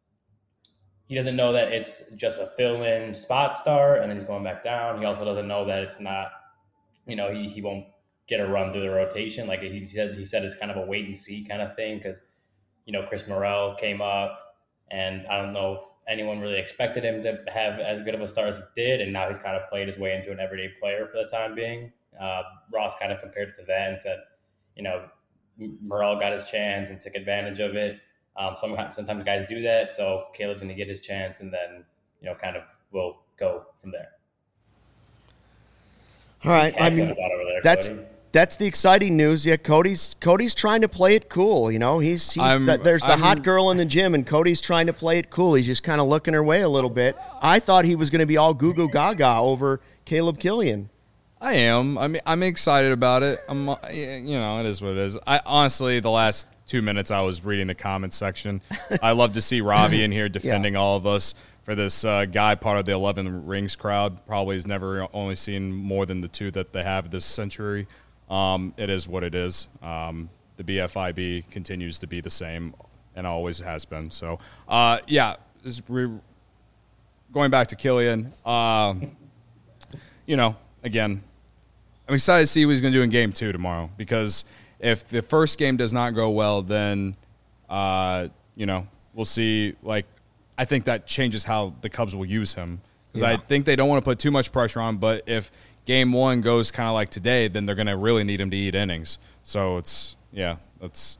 he doesn't know that it's just a fill-in spot start and then he's going back down. He also doesn't know that it's not, you know, he, he won't get a run through the rotation. Like he said, he said it's kind of a wait and see kind of thing because, you know, Chris Morrell came up and I don't know if anyone really expected him to have as good of a start as he did. And now he's kind of played his way into an everyday player for the time being. Uh, Ross kind of compared it to that and said, you know, Morrell got his chance and took advantage of it. Um, some, sometimes guys do that. So Caleb's going to get his chance and then, you know, kind of will go from there. All right. I Heck mean, of a lot over there, that's Cody. That's the exciting news. Yeah, Cody's Cody's trying to play it cool. You know, he's, he's I'm- the, there's the I'm- hot girl in the gym, and Cody's trying to play it cool. He's just kind of looking her way a little bit. I thought he was going to be all goo goo gaga over Caleb Killian. I am. I mean, I'm excited about it. I'm, uh, you know, it is what it is. I honestly, the last two minutes I was reading the comments section. I love to see Ravi in here defending all of us for this uh, guy, part of the eleven Rings crowd. Probably has never only seen more than the two that they have this century. Um, it is what it is. Um, the B F I B continues to be the same and always has been. So, uh, yeah, this, re- going back to Killian, uh, you know, again, I'm excited to see what he's going to do in game two tomorrow, because if the first game does not go well, then, uh, you know, we'll see. Like, I think that changes how the Cubs will use him, because Yeah. I think they don't want to put too much pressure on. But if game one goes kind of like today, then they're going to really need him to eat innings. So it's, yeah, that's,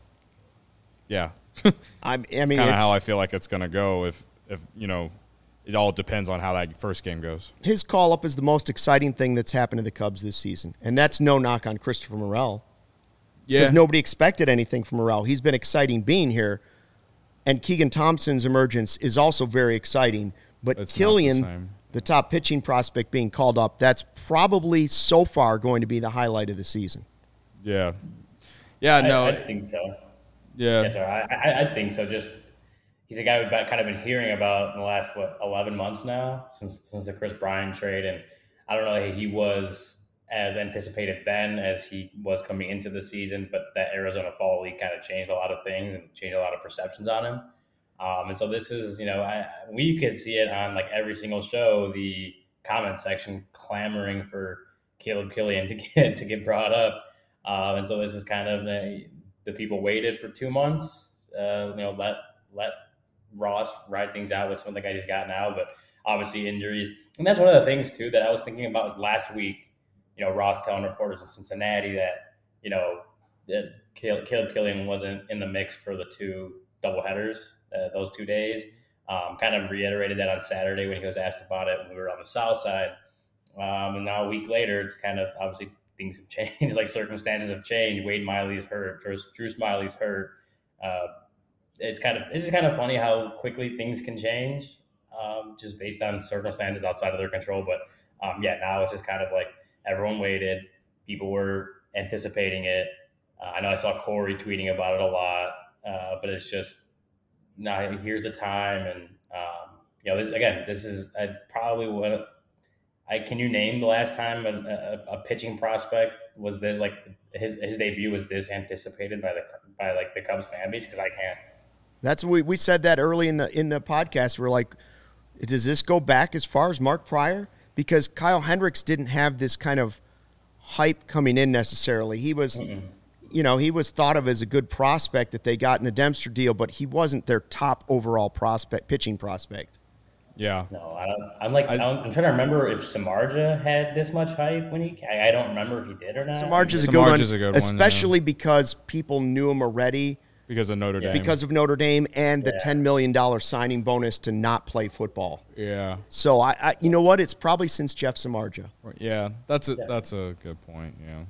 yeah. I, I mean, kind of it's- how I feel like it's going to go if, if, you know, it all depends on how that first game goes. his call up is the most exciting thing that's happened to the Cubs this season, and that's no knock on Christopher Morel. Yeah. Because nobody expected anything from Morel. He's been exciting being here, and Keegan Thompson's emergence is also very exciting. But It's not the Killian, same. the top pitching prospect being called up, that's probably so far going to be the highlight of the season. Yeah. Yeah, no. I, I think so. yeah. Yeah, sorry. I, I, I think so. Just he's a guy we've been- kind of been hearing about in the last what eleven months now, since since the Chris Bryant trade, and I don't know if he was as anticipated then as he was coming into the season, but that Arizona Fall League kind of changed a lot of things and changed a lot of perceptions on him. Um, and so this is, you know, I, we could see it on like every single show, the comment section clamoring for Caleb Killian to get to get brought up. Um, and so this is kind of the, the people waited for two months. Uh, you know, let let Ross ride things out with some of the guys he's got now, but obviously injuries. And that's one of the things too that I was thinking about was last week. You know, Ross telling reporters in Cincinnati that, you know, that Caleb Killian wasn't in the mix for the two doubleheaders, uh, those two days. Um, kind of reiterated that on Saturday when he was asked about it when we were on the south side. Um, and now a week later, it's kind of obviously things have changed, like circumstances have changed. Wade Miley's hurt, Drew, Drew Smiley's hurt. Uh, it's kind of it's kind of funny how quickly things can change, um, just based on circumstances outside of their control. But um, yeah, now it's just kind of like everyone waited. People were anticipating it. Uh, I know I saw Corey tweeting about it a lot, uh, but it's just now here's the time, and um, you know, this again, this is uh, probably what I can you name the last time a, a, a pitching prospect was this like his his debut was this anticipated by the by like the Cubs fan base, because I can't. That's what we, we said that early in the in the podcast. We're like, does this go back as far as Mark Pryor? Because Kyle Hendricks didn't have this kind of hype coming in necessarily. He was, Mm-mm. you know, he was thought of as a good prospect that they got in the Dempster deal, but he wasn't their top overall prospect, pitching prospect. Yeah. No, I don't, I'm like, I, I'm trying to remember if Samardzija had this much hype when he, I, I don't remember if he did or not. Samardzija's a good one, a good one especially yeah. because people knew him already. Because of Notre Dame. Because of Notre Dame and the yeah. ten million dollars signing bonus to not play football. Yeah. So, I, I, you know what? It's probably since Jeff Samardzija. Yeah, that's a, that's a good point, yeah.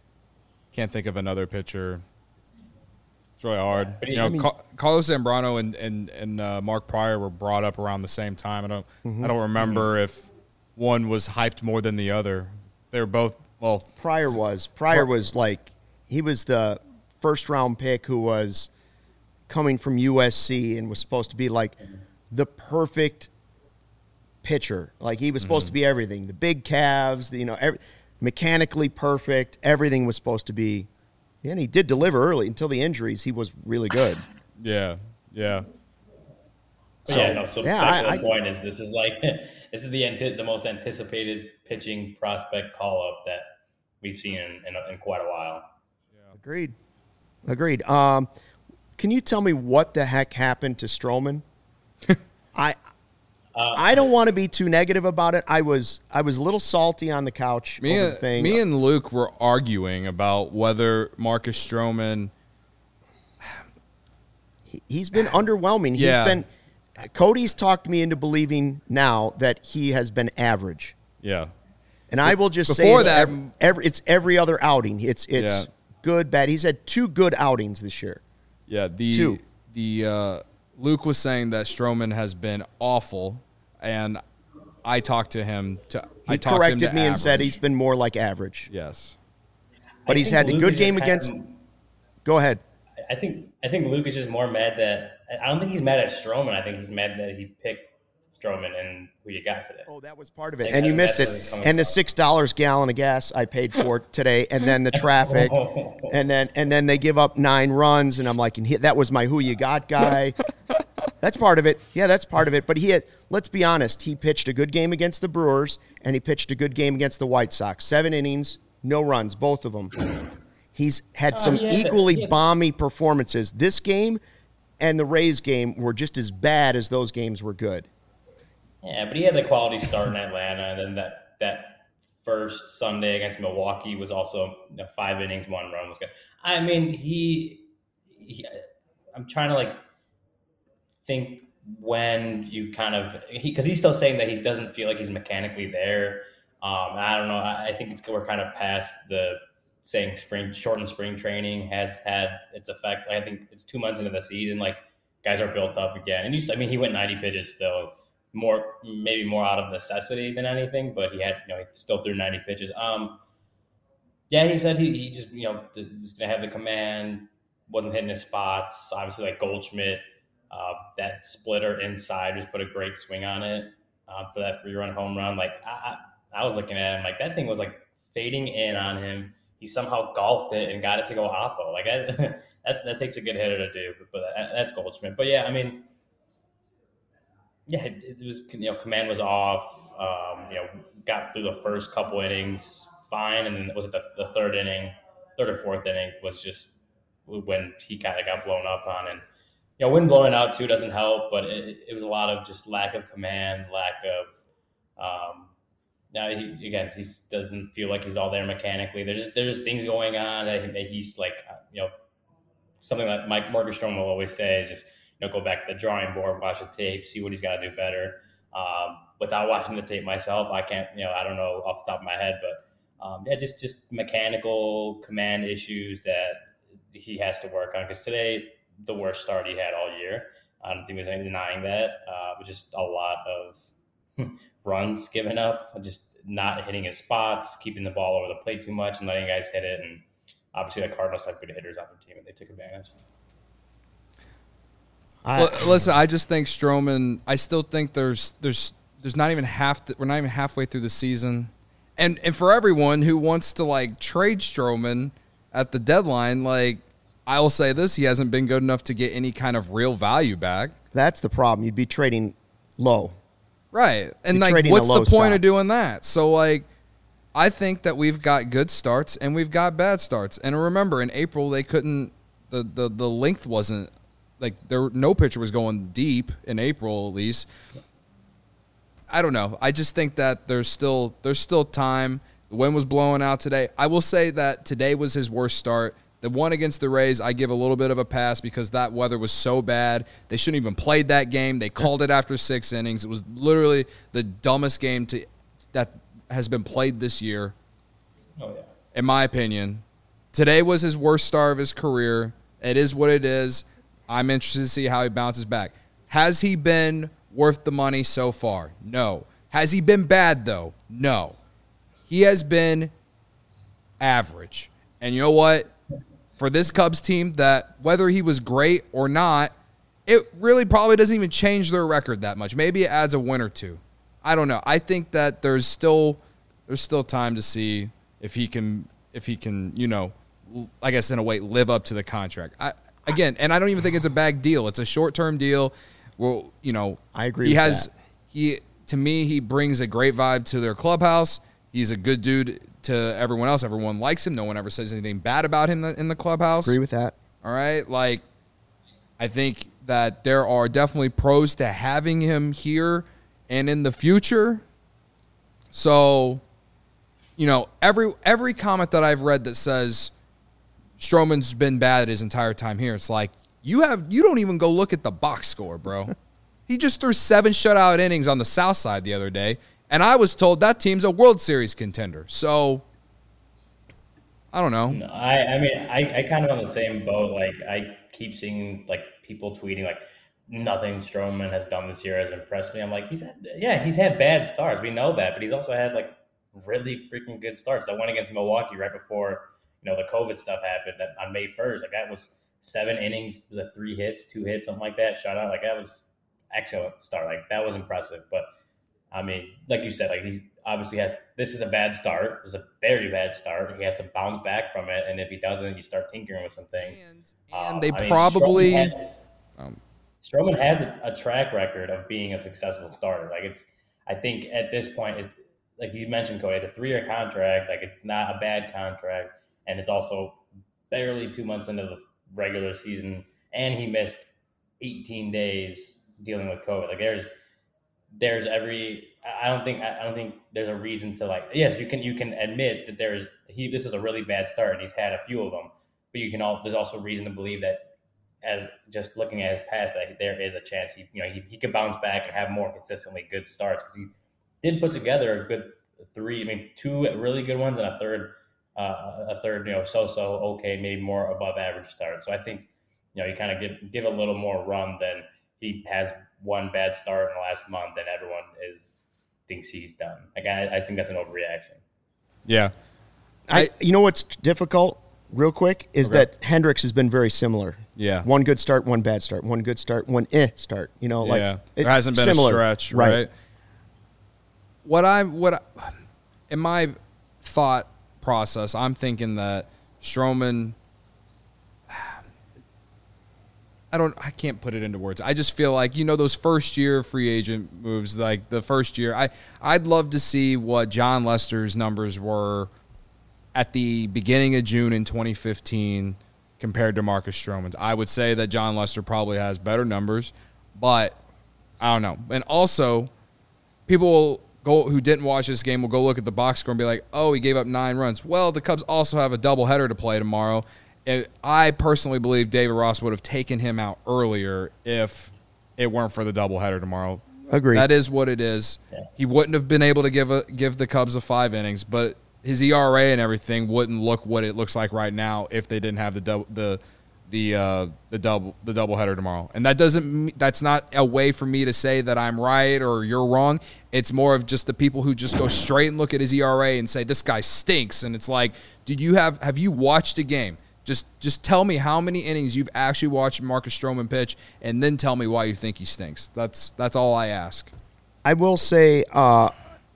Can't think of another pitcher. It's really hard. Yeah, you know, I mean, Carlos Zambrano and, and, and uh, Mark Pryor were brought up around the same time. I don't mm-hmm. I don't remember mm-hmm. if one was hyped more than the other. They were both, well. Pryor was. Pryor was like, he was the first-round pick who was coming from U S C and was supposed to be like the perfect pitcher. Like he was supposed mm-hmm. to be everything. The big calves, the, you know, every, mechanically perfect. Everything was supposed to be. And he did deliver early until the injuries. He was really good. Yeah, yeah. So, yeah, no, so yeah, back I, to the I, point is this is like this is the anti- the most anticipated pitching prospect call-up that we've seen in, in, in quite a while. Yeah. Agreed. Agreed. Um, Can you tell me what the heck happened to Stroman? I uh, I don't want to be too negative about it. I was I was a little salty on the couch me over and, the thing. Me and Luke were arguing about whether Marcus Stroman. He, he's been underwhelming. Yeah. He's been. Cody's talked me into believing now that he has been average. Yeah. And I will just say Before it's, that- every, every, it's every other outing. It's it's Yeah. good, bad. He's had two good outings this year. Yeah, the Two. the uh, Luke was saying that Stroman has been awful, and I talked to him to He I talked corrected him to me and said average. he's been more like average. yes. But I he's think had a Luke good is game just against. kind of- Go ahead. I think I think Luke is just more mad that I don't think he's mad at Stroman. I think he's mad that he picked Stroman and who you got today. Oh, that was part of it, think and you that- missed that's what it it. comes And the from. six dollars gallon of gas I paid for today, and then the traffic, and then and then they give up nine runs, and I'm like, and he, that was my who you got guy. That's part of it. Yeah, that's part of it. But he had. Let's be honest. He pitched a good game against the Brewers, and he pitched a good game against the White Sox. Seven innings, no runs, both of them. He's had some yeah, but- equally yeah. balmy performances. This game and the Rays game were just as bad as those games were good. Yeah, but he had the quality start in Atlanta, and then that that first Sunday against Milwaukee was also you know, five innings, one run was good. I mean, he, he I'm trying to like think when you kind of he because he's still saying that he doesn't feel like he's mechanically there. Um, I don't know. I, I think it's we're kind of past the saying spring shortened spring training has had its effects. I think it's two months into the season, like guys are built up again. And you, I mean, he went ninety pitches still, more maybe more out of necessity than anything, but he had you know he still threw ninety pitches. Um, yeah, he said he, he just you know just didn't have the command, wasn't hitting his spots. Obviously, like Goldschmidt, uh, that splitter inside just put a great swing on it uh, for that three run home run. Like I, I, I was looking at him like that thing was like fading in on him. He somehow golfed it and got it to go oppo. Like I, that, that takes a good hitter to do, but, but that, that's Goldschmidt. But yeah, I mean, yeah, it, it was you know command was off. Um, you know, got through the first couple innings fine, and then was it the, the third inning, third or fourth inning was just when he kind of got blown up on. And you know, wind blowing out too doesn't help, but it, it was a lot of just lack of command, lack of. Um, Now he again he doesn't feel like he's all there mechanically. There's just there's things going on that he's like you know something that Mike Marcus Stroman will always say is just you know go back to the drawing board, watch the tape, see what he's got to do better. Um, without watching the tape myself, I can't you know I don't know off the top of my head, but um, yeah, just just mechanical command issues that he has to work on. Because today the worst start he had all year. I don't think there's any denying that. Uh, but just a lot of runs given up, just not hitting his spots, keeping the ball over the plate too much, and letting guys hit it. And obviously, the Cardinals have good hitters on the team, and they took advantage. I, L- Listen, I just think Stroman. I still think there's there's there's not even half. The, we're not even halfway through the season, and and for everyone who wants to like trade Stroman at the deadline, like I will say this: he hasn't been good enough to get any kind of real value back. that's the problem. You'd be trading low. Right. And You're like trading a what's the low point stock. of doing that? So like I think that we've got good starts and we've got bad starts. And remember in April they couldn't the the, the length wasn't like there no pitcher was going deep in April at least. I don't know. I just think that there's still there's still time. The wind was blowing out today. I will say that today was his worst start. The one against the Rays, I give a little bit of a pass because that weather was so bad. They shouldn't even played that game. They called it after six innings. It was literally the dumbest game to that has been played this year, Oh yeah. in my opinion. Today was his worst start of his career. It is what it is. I'm interested to see how he bounces back. Has he been worth the money so far? No. Has he been bad, though? No. He has been average. And you know what? For this Cubs team, that whether he was great or not, it really probably doesn't even change their record that much. Maybe it adds a win or two. I don't know. I think that there's still there's still time to see if he can if he can, you know, I guess in a way live up to the contract. I again, and I don't even think it's a bad deal. It's a short-term deal. Well, you know, I agree He with has that. he to me he brings a great vibe to their clubhouse. He's a good dude to everyone else. Everyone likes him. No one ever says anything bad about him in the clubhouse. Agree with that. All right. Like, I think that there are definitely pros to having him here and in the future. So, you know, every every comment that I've read that says Stroman's been bad his entire time here, it's like, you have you don't even go look at the box score, bro. He just threw seven shutout innings on the South Side the other day, And I was told that team's a World Series contender. So, I don't know. No, I, I mean, I, I kind of on the same boat. Like, I keep seeing, like, people tweeting, like, nothing Stroman has done this year has impressed me. I'm like, he's had, yeah, he's had bad starts. We know that. But he's also had, like, really freaking good starts. That one against Milwaukee right before, you know, the COVID stuff happened that on May first. Like, that was seven innings, was it three hits, two hits, something like that, shutout. Like, that was excellent start. Like, that was impressive. But, I mean, like you said, like, he's obviously has – this is a bad start. It's a very bad start. He has to bounce back from it. And if he doesn't, you start tinkering with some things. And, and um, they I probably mean, Stroman, had, um, Stroman has a, a track record of being a successful starter. Like, it's – I think at this point, it's like you mentioned, Cody, it's a three-year contract. Like, it's not a bad contract. And it's also barely two months into the regular season. And he missed eighteen days dealing with COVID. Like, there's – there's every I don't think I don't think there's a reason to, like, yes, you can you can admit that there's he this is a really bad start and he's had a few of them, but you can also there's also reason to believe that as just looking at his past that there is a chance he you know he, he could bounce back and have more consistently good starts because he did put together a good three I mean two really good ones and a third uh, a third you know so so okay maybe more above average start. So I think you know you kind of give give a little more run than he has one bad start in the last month and everyone is thinks he's done. Like I, I think that's an overreaction. Yeah. I, I you know what's difficult, real quick, is Okay. that Hendricks has been very similar. Yeah. One good start, one bad start. One good start, one eh start. You know, like yeah. it- There hasn't been similar. a stretch, right? What I what I, in my thought process, I'm thinking that Stroman I don't I can't put it into words. I just feel like, you know, those first year free agent moves, like the first year, I I'd love to see what John Lester's numbers were at the beginning of June in twenty fifteen compared to Marcus Stroman's. I would say that John Lester probably has better numbers, but I don't know. And also, people will go who didn't watch this game will go look at the box score and be like, "Oh, he gave up nine runs." Well, the Cubs also have a doubleheader to play tomorrow. And I personally believe David Ross would have taken him out earlier if it weren't for the doubleheader tomorrow. Agreed. That is what it is. Yeah. He wouldn't have been able to give a, give the Cubs a five innings, but his E R A and everything wouldn't look what it looks like right now if they didn't have the double the the uh, the double the doubleheader tomorrow. And that doesn't that's not a way for me to say that I'm right or you're wrong. It's more of just the people who just go straight and look at his E R A and say this guy stinks. And it's like, did you have have you watched a game? Just just tell me how many innings you've actually watched Marcus Stroman pitch, and then tell me why you think he stinks. That's that's all I ask. I will say uh,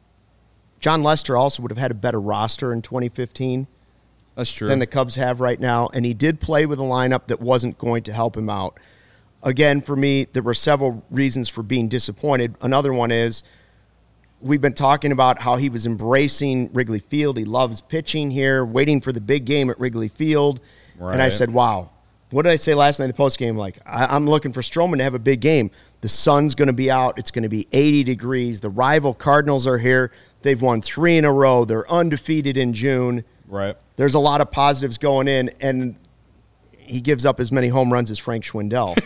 John Lester also would have had a better roster in twenty fifteen That's true. than the Cubs have right now, and he did play with a lineup that wasn't going to help him out. Again, for me, there were several reasons for being disappointed. Another one is we've been talking about how he was embracing Wrigley Field. He loves pitching here, waiting for the big game at Wrigley Field. Right. And I said, wow. What did I say last night in the postgame? Like, I, I'm looking for Stroman to have a big game. The sun's going to be out. It's going to be eighty degrees. The rival Cardinals are here. They've won three in a row. They're undefeated in June. Right. There's a lot of positives going in, and he gives up as many home runs as Frank Schwindel.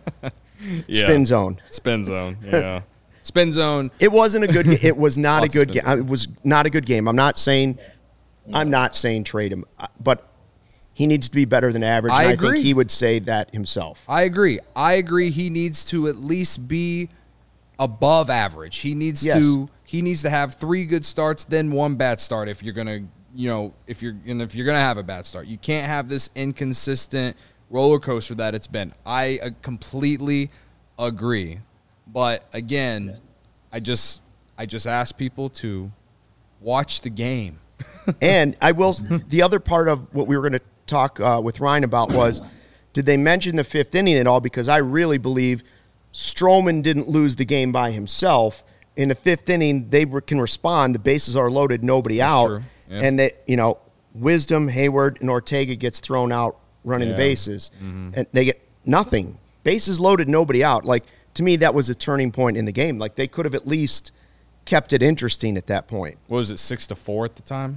Yeah. Spin zone. Spin zone. Yeah. Spin zone. It wasn't a good. ga- It was not a Lots of good spin game. It was not a good game. I'm not saying. I'm not saying trade him, uh, but he needs to be better than average. I and I agree. think he would say that himself. I agree. I agree. He needs to at least be above average. He needs Yes. to. He needs to have three good starts, then one bad start. If you're gonna, you know, if you're and if you're gonna have a bad start, you can't have this inconsistent roller coaster that it's been. I uh, completely agree. But again, I just I just ask people to watch the game. And I will. The other part of what we were going to talk uh, with Ryan about was, did they mention the fifth inning at all? Because I really believe Stroman didn't lose the game by himself. In the fifth inning, they were, can respond. The bases are loaded, nobody That's out, true. Yeah. and that you know, Wisdom, Hayward, and Ortega gets thrown out running Yeah. the bases, and they get nothing. Bases loaded, nobody out. Like, to me, that was a turning point in the game. Like, they could have at least kept it interesting at that point. What was it, six to four at the time?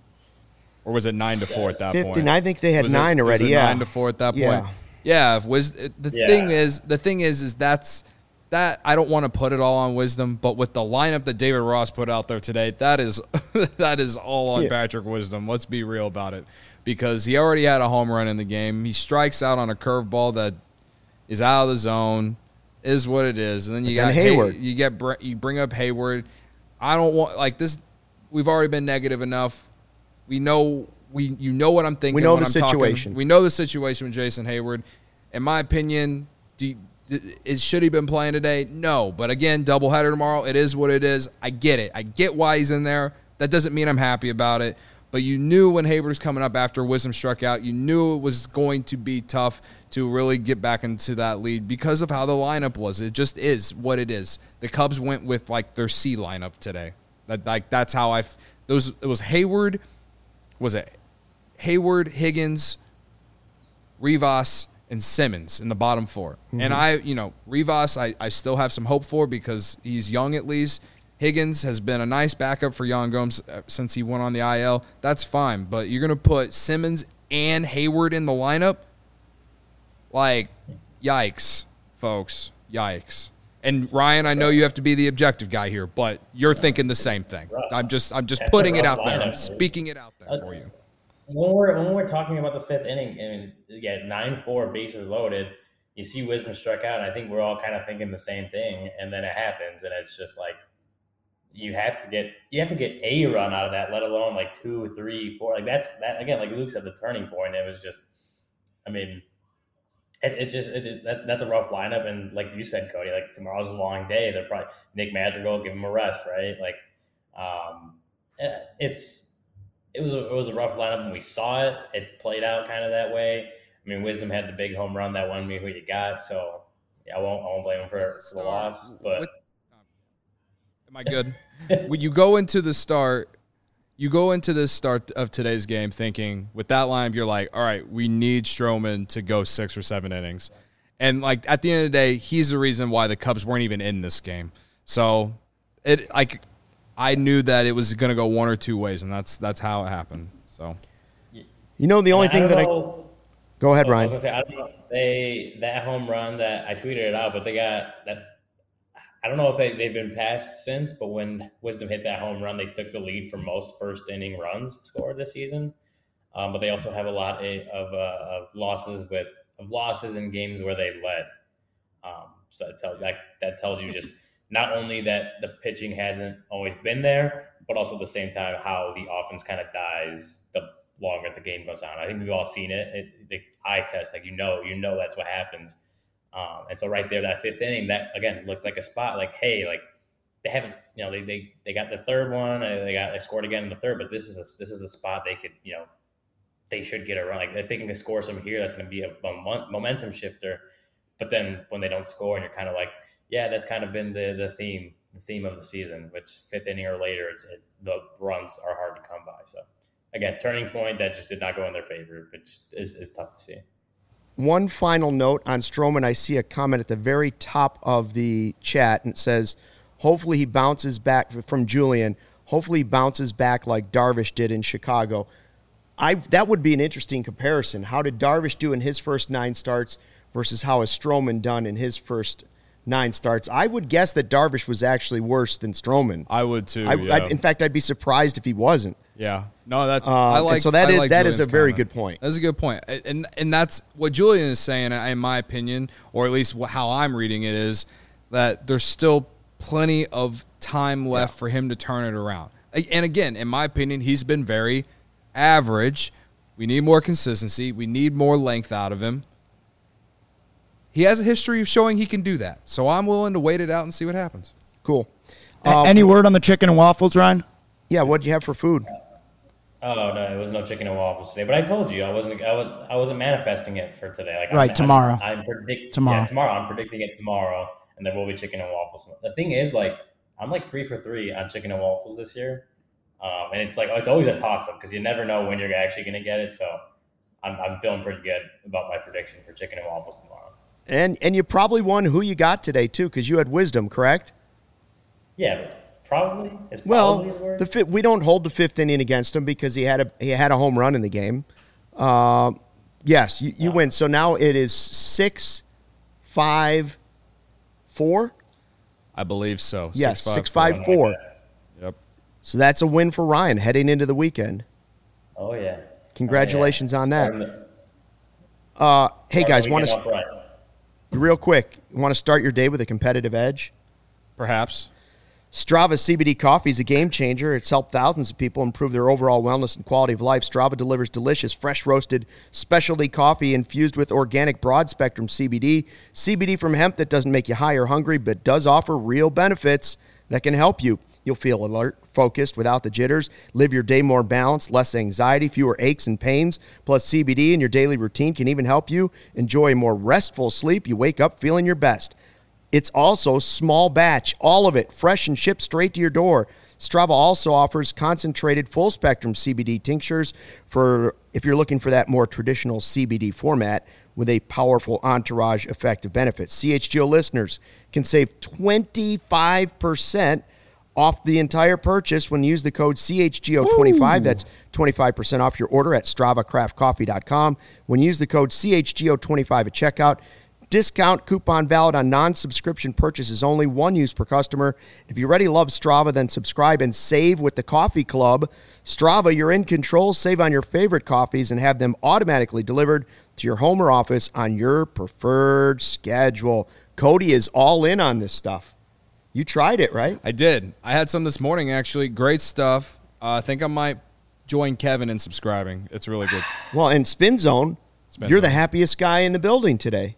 Or was it nine to four at that fifteen, point? I think they had Was it- nine already. was it yeah, nine to four at that Yeah. point. Yeah. If was the Yeah. thing is the thing is is that's that I don't want to put it all on Wisdom, but with the lineup that David Ross put out there today, that is that is all on yeah. Patrick Wisdom. Let's be real about it, because he already had a home run in the game. He strikes out on a curveball that is out of the zone, is what it is, and then you and got Hayward. Hay, you get you bring up Hayward. I don't want like this. We've already been negative enough. We know we you know what I'm thinking. We know when the I'm situation. Talking. We know the situation with Jason Hayward. In my opinion, do you, Is should he been playing today? No. But again, doubleheader tomorrow. It is what it is. I get it. I get why he's in there. That doesn't mean I'm happy about it. But you knew when Hayward was coming up after Wisdom struck out, you knew it was going to be tough to really get back into that lead because of how the lineup was. It just is what it is. The Cubs went with like their C lineup today. That like that's how I those it was Hayward. Was it Hayward, Higgins, Rivas, and Simmons in the bottom four. Mm-hmm. And I, you know, Rivas, I, I still have some hope for because he's young at least. Higgins has been a nice backup for Yan Gomes since he went on the I L. That's fine. But you're going to put Simmons and Hayward in the lineup? Like, yikes, folks. Yikes. And Ryan, I know you have to be the objective guy here, but you're thinking the same thing. I'm just I'm just That's putting it rough out there. lineup, I'm speaking it out there for you. When we're when we're talking about the fifth inning, and yeah, nine four bases loaded, you see Wisdom struck out, and I think we're all kind of thinking the same thing, and then it happens, and it's just like you have to get you have to get a run out of that, let alone like two, three, four. Like that's that again, like Luke said, the turning point. It was just, I mean, it, it's just it's just that, that's a rough lineup, and like you said, Cody, like tomorrow's a long day. They're probably Nick Madrigal, give him a rest, right? Like, um, it's. It was a, it was a rough lineup when we saw it. It played out kind of that way. I mean, Wisdom had the big home run that won me who you got. So yeah, I won't I won't blame him for, for the loss. But what, am I good? When you go into the start, you go into the start of today's game thinking with that lineup, you're like, all right, we need Stroman to go six or seven innings, and like at the end of the day, he's the reason why the Cubs weren't even in this game. So it like. I knew that it was going to go one or two ways, and that's that's how it happened. So, you know, the only thing that know, I go ahead, I Ryan. was gonna say, I don't know they that home run that I tweeted it out, but they got that. I don't know if they they've been passed since, but when Wisdom hit that home run, they took the lead for most first inning runs scored this season. Um, but they also have a lot of uh, of losses with of losses in games where they led. Um, so that tells that that tells you just. Not only that the pitching hasn't always been there, but also at the same time how the offense kind of dies the longer the game goes on. I think we've all seen it. it the eye test, like you know, you know that's what happens. Um, and so right there, that fifth inning, that again looked like a spot. Like, hey, like they haven't, you know, they they they got the third one, they got they scored again in the third, but this is a, this is the spot they could, you know, they should get a run. Like if they can score some here, that's going to be a, a momentum shifter. But then when they don't score, and you're kind of like. Yeah, that's kind of been the the theme, the theme of the season, which fifth inning or later, it's, it, the runs are hard to come by. So, again, turning point that just did not go in their favor, which is, is tough to see. One final note on Stroman. I see a comment at the very top of the chat, and it says, hopefully he bounces back from Julian. Hopefully he bounces back like Darvish did in Chicago. I That would be an interesting comparison. How did Darvish do in his first nine starts versus how has Stroman done in his first nine starts? I would guess that Darvish was actually worse than Stroman. I would too. I, yeah. I, in fact, I'd be surprised if he wasn't. Yeah. No, that Uh, I like. and so that I is like that is a Julian's very comment. good point. That's a good point, and and that's what Julian is saying, in my opinion, or at least how I'm reading it is that there's still plenty of time left yeah. for him to turn it around. And again, in my opinion, he's been very average. We need more consistency. We need more length out of him. He has a history of showing he can do that. So I'm willing to wait it out and see what happens. Cool. Um, Any word on the chicken and waffles, Ryan? Yeah, what'd you have for food? Oh no, it was no chicken and waffles today. But I told you I wasn't. I, was, I wasn't manifesting it for today. Like right I'm, tomorrow. I'm, I'm predicting tomorrow. Yeah, tomorrow. I'm predicting it tomorrow, and there will be chicken and waffles. The thing is, like, I'm like three for three on chicken and waffles this year, um, and it's like it's always a toss up because you never know when you're actually going to get it. So I'm, I'm feeling pretty good about my prediction for chicken and waffles tomorrow. And and you probably won who you got today too, because you had Wisdom, correct? Yeah, probably. It's well, probably a word. the fi- we don't hold the fifth inning against him because he had a he had a home run in the game. Uh, yes, you, you wow. win. So now it is six, five, four. I believe so. Yes, six five four. Yep. So that's a win for Ryan heading into the weekend. Oh, yeah. Congratulations oh, yeah. on Starting that. The, uh, hey, guys, want to to real quick, you want to start your day with a competitive edge? Perhaps. Strava C B D coffee is a game changer. It's helped thousands of people improve their overall wellness and quality of life. Strava delivers delicious, fresh roasted specialty coffee infused with organic broad spectrum C B D. C B D from hemp that doesn't make you high or hungry, but does offer real benefits that can help you. You'll feel alert, focused, without the jitters. Live your day more balanced, less anxiety, fewer aches and pains. Plus, C B D in your daily routine can even help you enjoy a more restful sleep. You wake up feeling your best. It's also small batch, all of it, fresh and shipped straight to your door. Strava also offers concentrated full-spectrum C B D tinctures for if you're looking for that more traditional C B D format with a powerful entourage effect of benefits. C H G O listeners can save twenty-five percent off the entire purchase when you use the code C H G O twenty-five. Ooh. That's twenty-five percent off your order at strava craft coffee dot com. When you use the code C H G O twenty-five at checkout, discount coupon valid on non-subscription purchases only, one use per customer. If you already love Strava, then subscribe and save with the Coffee Club. Strava, you're in control. Save on your favorite coffees and have them automatically delivered to your home or office on your preferred schedule. Cody is all in on this stuff. You tried it, right? I did. I had some this morning, actually. Great stuff. Uh, I think I might join Kevin in subscribing. It's really good. Well, in Spin Zone, Spin you're Zone. the happiest guy in the building today.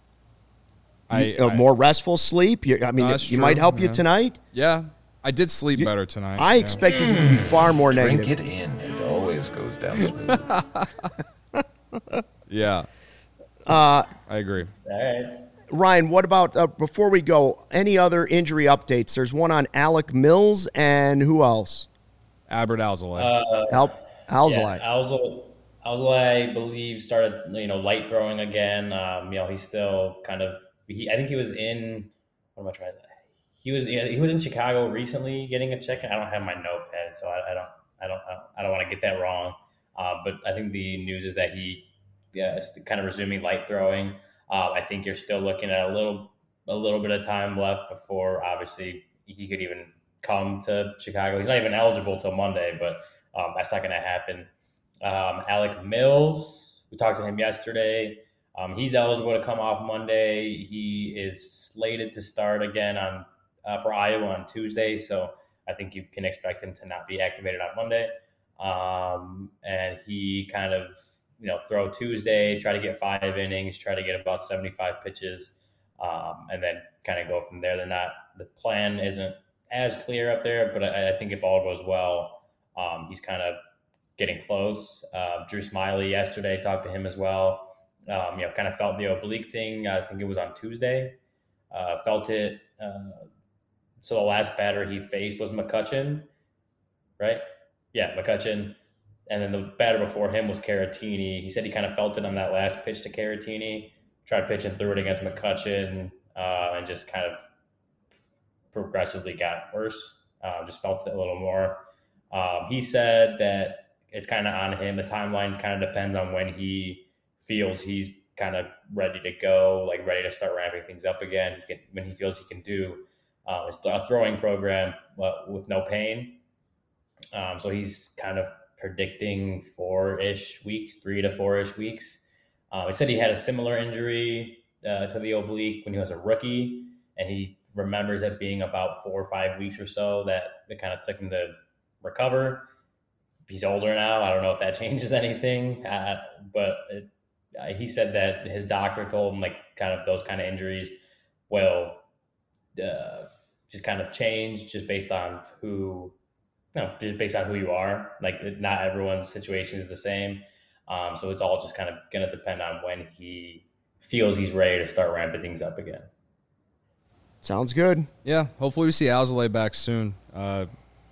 I, you, uh, I more restful sleep. You, I mean, no, you true. might help yeah. you tonight. Yeah, I did sleep you, better tonight. I yeah. expected you to be far more negative. Drink it in. It always goes down smooth. yeah. Uh, I agree. All right. Ryan, what about, uh, before we go, any other injury updates? There's one on Alec Mills and who else? Albert Alzolay. Uh, Al- Alzolay. Yeah, Alzolay. Alzolay, I believe, started, you know, light throwing again. Um, you know, he's still kind of, he, I think he was in, what am I trying to say? He was, he was in Chicago recently getting a check. I don't have my notepad, so I, I don't, I don't, I don't want to get that wrong. Uh, but I think the news is that he yeah, is kind of resuming light throwing. Uh, I think you're still looking at a little, a little bit of time left before obviously he could even come to Chicago. He's not even eligible till Monday, but um, that's not going to happen. Um, Alec Mills, we talked to him yesterday. Um, he's eligible to come off Monday. He is slated to start again on uh, for Iowa on Tuesday, so I think you can expect him to not be activated on Monday. Um, and he kind of, you know, throw Tuesday, try to get five innings, try to get about seventy-five pitches, um, and then kind of go from there. They're not, the plan isn't as clear up there, but I, I think if all goes well, um, he's kind of getting close. Uh, Drew Smiley yesterday, talked to him as well. Um, you know, kind of felt the oblique thing. I think it was on Tuesday. Uh, felt it. Uh, so the last batter he faced was McCutchen, right? Yeah, McCutchen. And then the batter before him was Caratini. He said he kind of felt it on that last pitch to Caratini. Tried pitching through it against McCutchen uh, and just kind of progressively got worse. Uh, just felt it a little more. Um, he said that it's kind of on him. The timeline kind of depends on when he feels he's kind of ready to go, like ready to start ramping things up again. He can, when he feels he can do uh, a throwing program uh, with no pain. Um, so he's kind of predicting four-ish weeks, three to four-ish weeks. Uh, he said he had a similar injury uh, to the oblique when he was a rookie, and he remembers it being about four or five weeks or so that it kind of took him to recover. He's older now. I don't know if that changes anything, uh, but it, uh, he said that his doctor told him like kind of those kind of injuries will uh, just kind of change just based on who, you know, just based on who you are. Like not everyone's situation is the same. Um, so it's all just kind of going to depend on when he feels he's ready to start ramping things up again. Sounds good. Yeah, hopefully we see Alzolay back soon. Uh,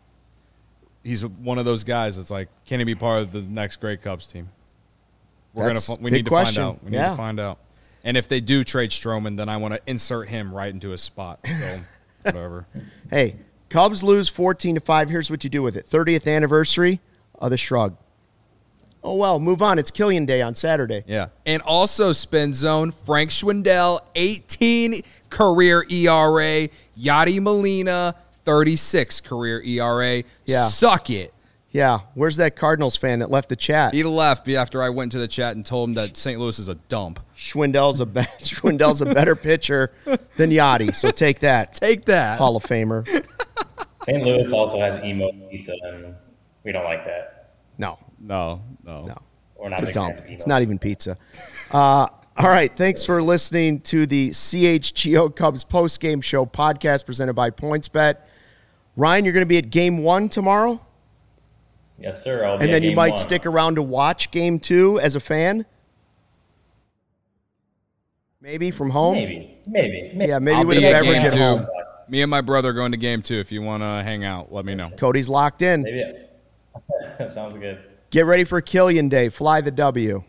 he's one of those guys that's like, can he be part of the next Grey Cubs team? We're That's gonna we big need to question. find out. We yeah. need to find out. And if they do trade Stroman, then I want to insert him right into his spot. So whatever. Hey, Cubs lose fourteen to five. Here's what you do with it. thirtieth anniversary of the Shrug. Oh, well, move on. It's Killian Day on Saturday. Yeah. And also spin zone, Frank Schwindel, eighteen career E R A. Yadi Molina, thirty-six career E R A. Yeah. Suck it. Yeah. Where's that Cardinals fan that left the chat? He left after I went to the chat and told him that Saint Louis is a dump. Schwindel's a, be- Schwindel's a better pitcher than Yachty, so take that. Take that. Hall of Famer. Saint Louis also has emo pizza, and we don't like that. No, No, no. no. We're not It's a big dump. fans of emo. It's not even pizza. Uh, all right. Thanks for listening to the C H G O Cubs post-game show podcast presented by PointsBet. Ryan, you're going to be at game one tomorrow? Yes, sir. I'll be And at then you game might one. stick around to watch game two as a fan? Maybe from home? Maybe, maybe, maybe. Yeah, maybe I'll with be a at beverage game at two. home. Me and my brother are going to game two. If you want to hang out, let me know. Cody's locked in. Maybe. Sounds good. Get ready for Killian Day. Fly the W.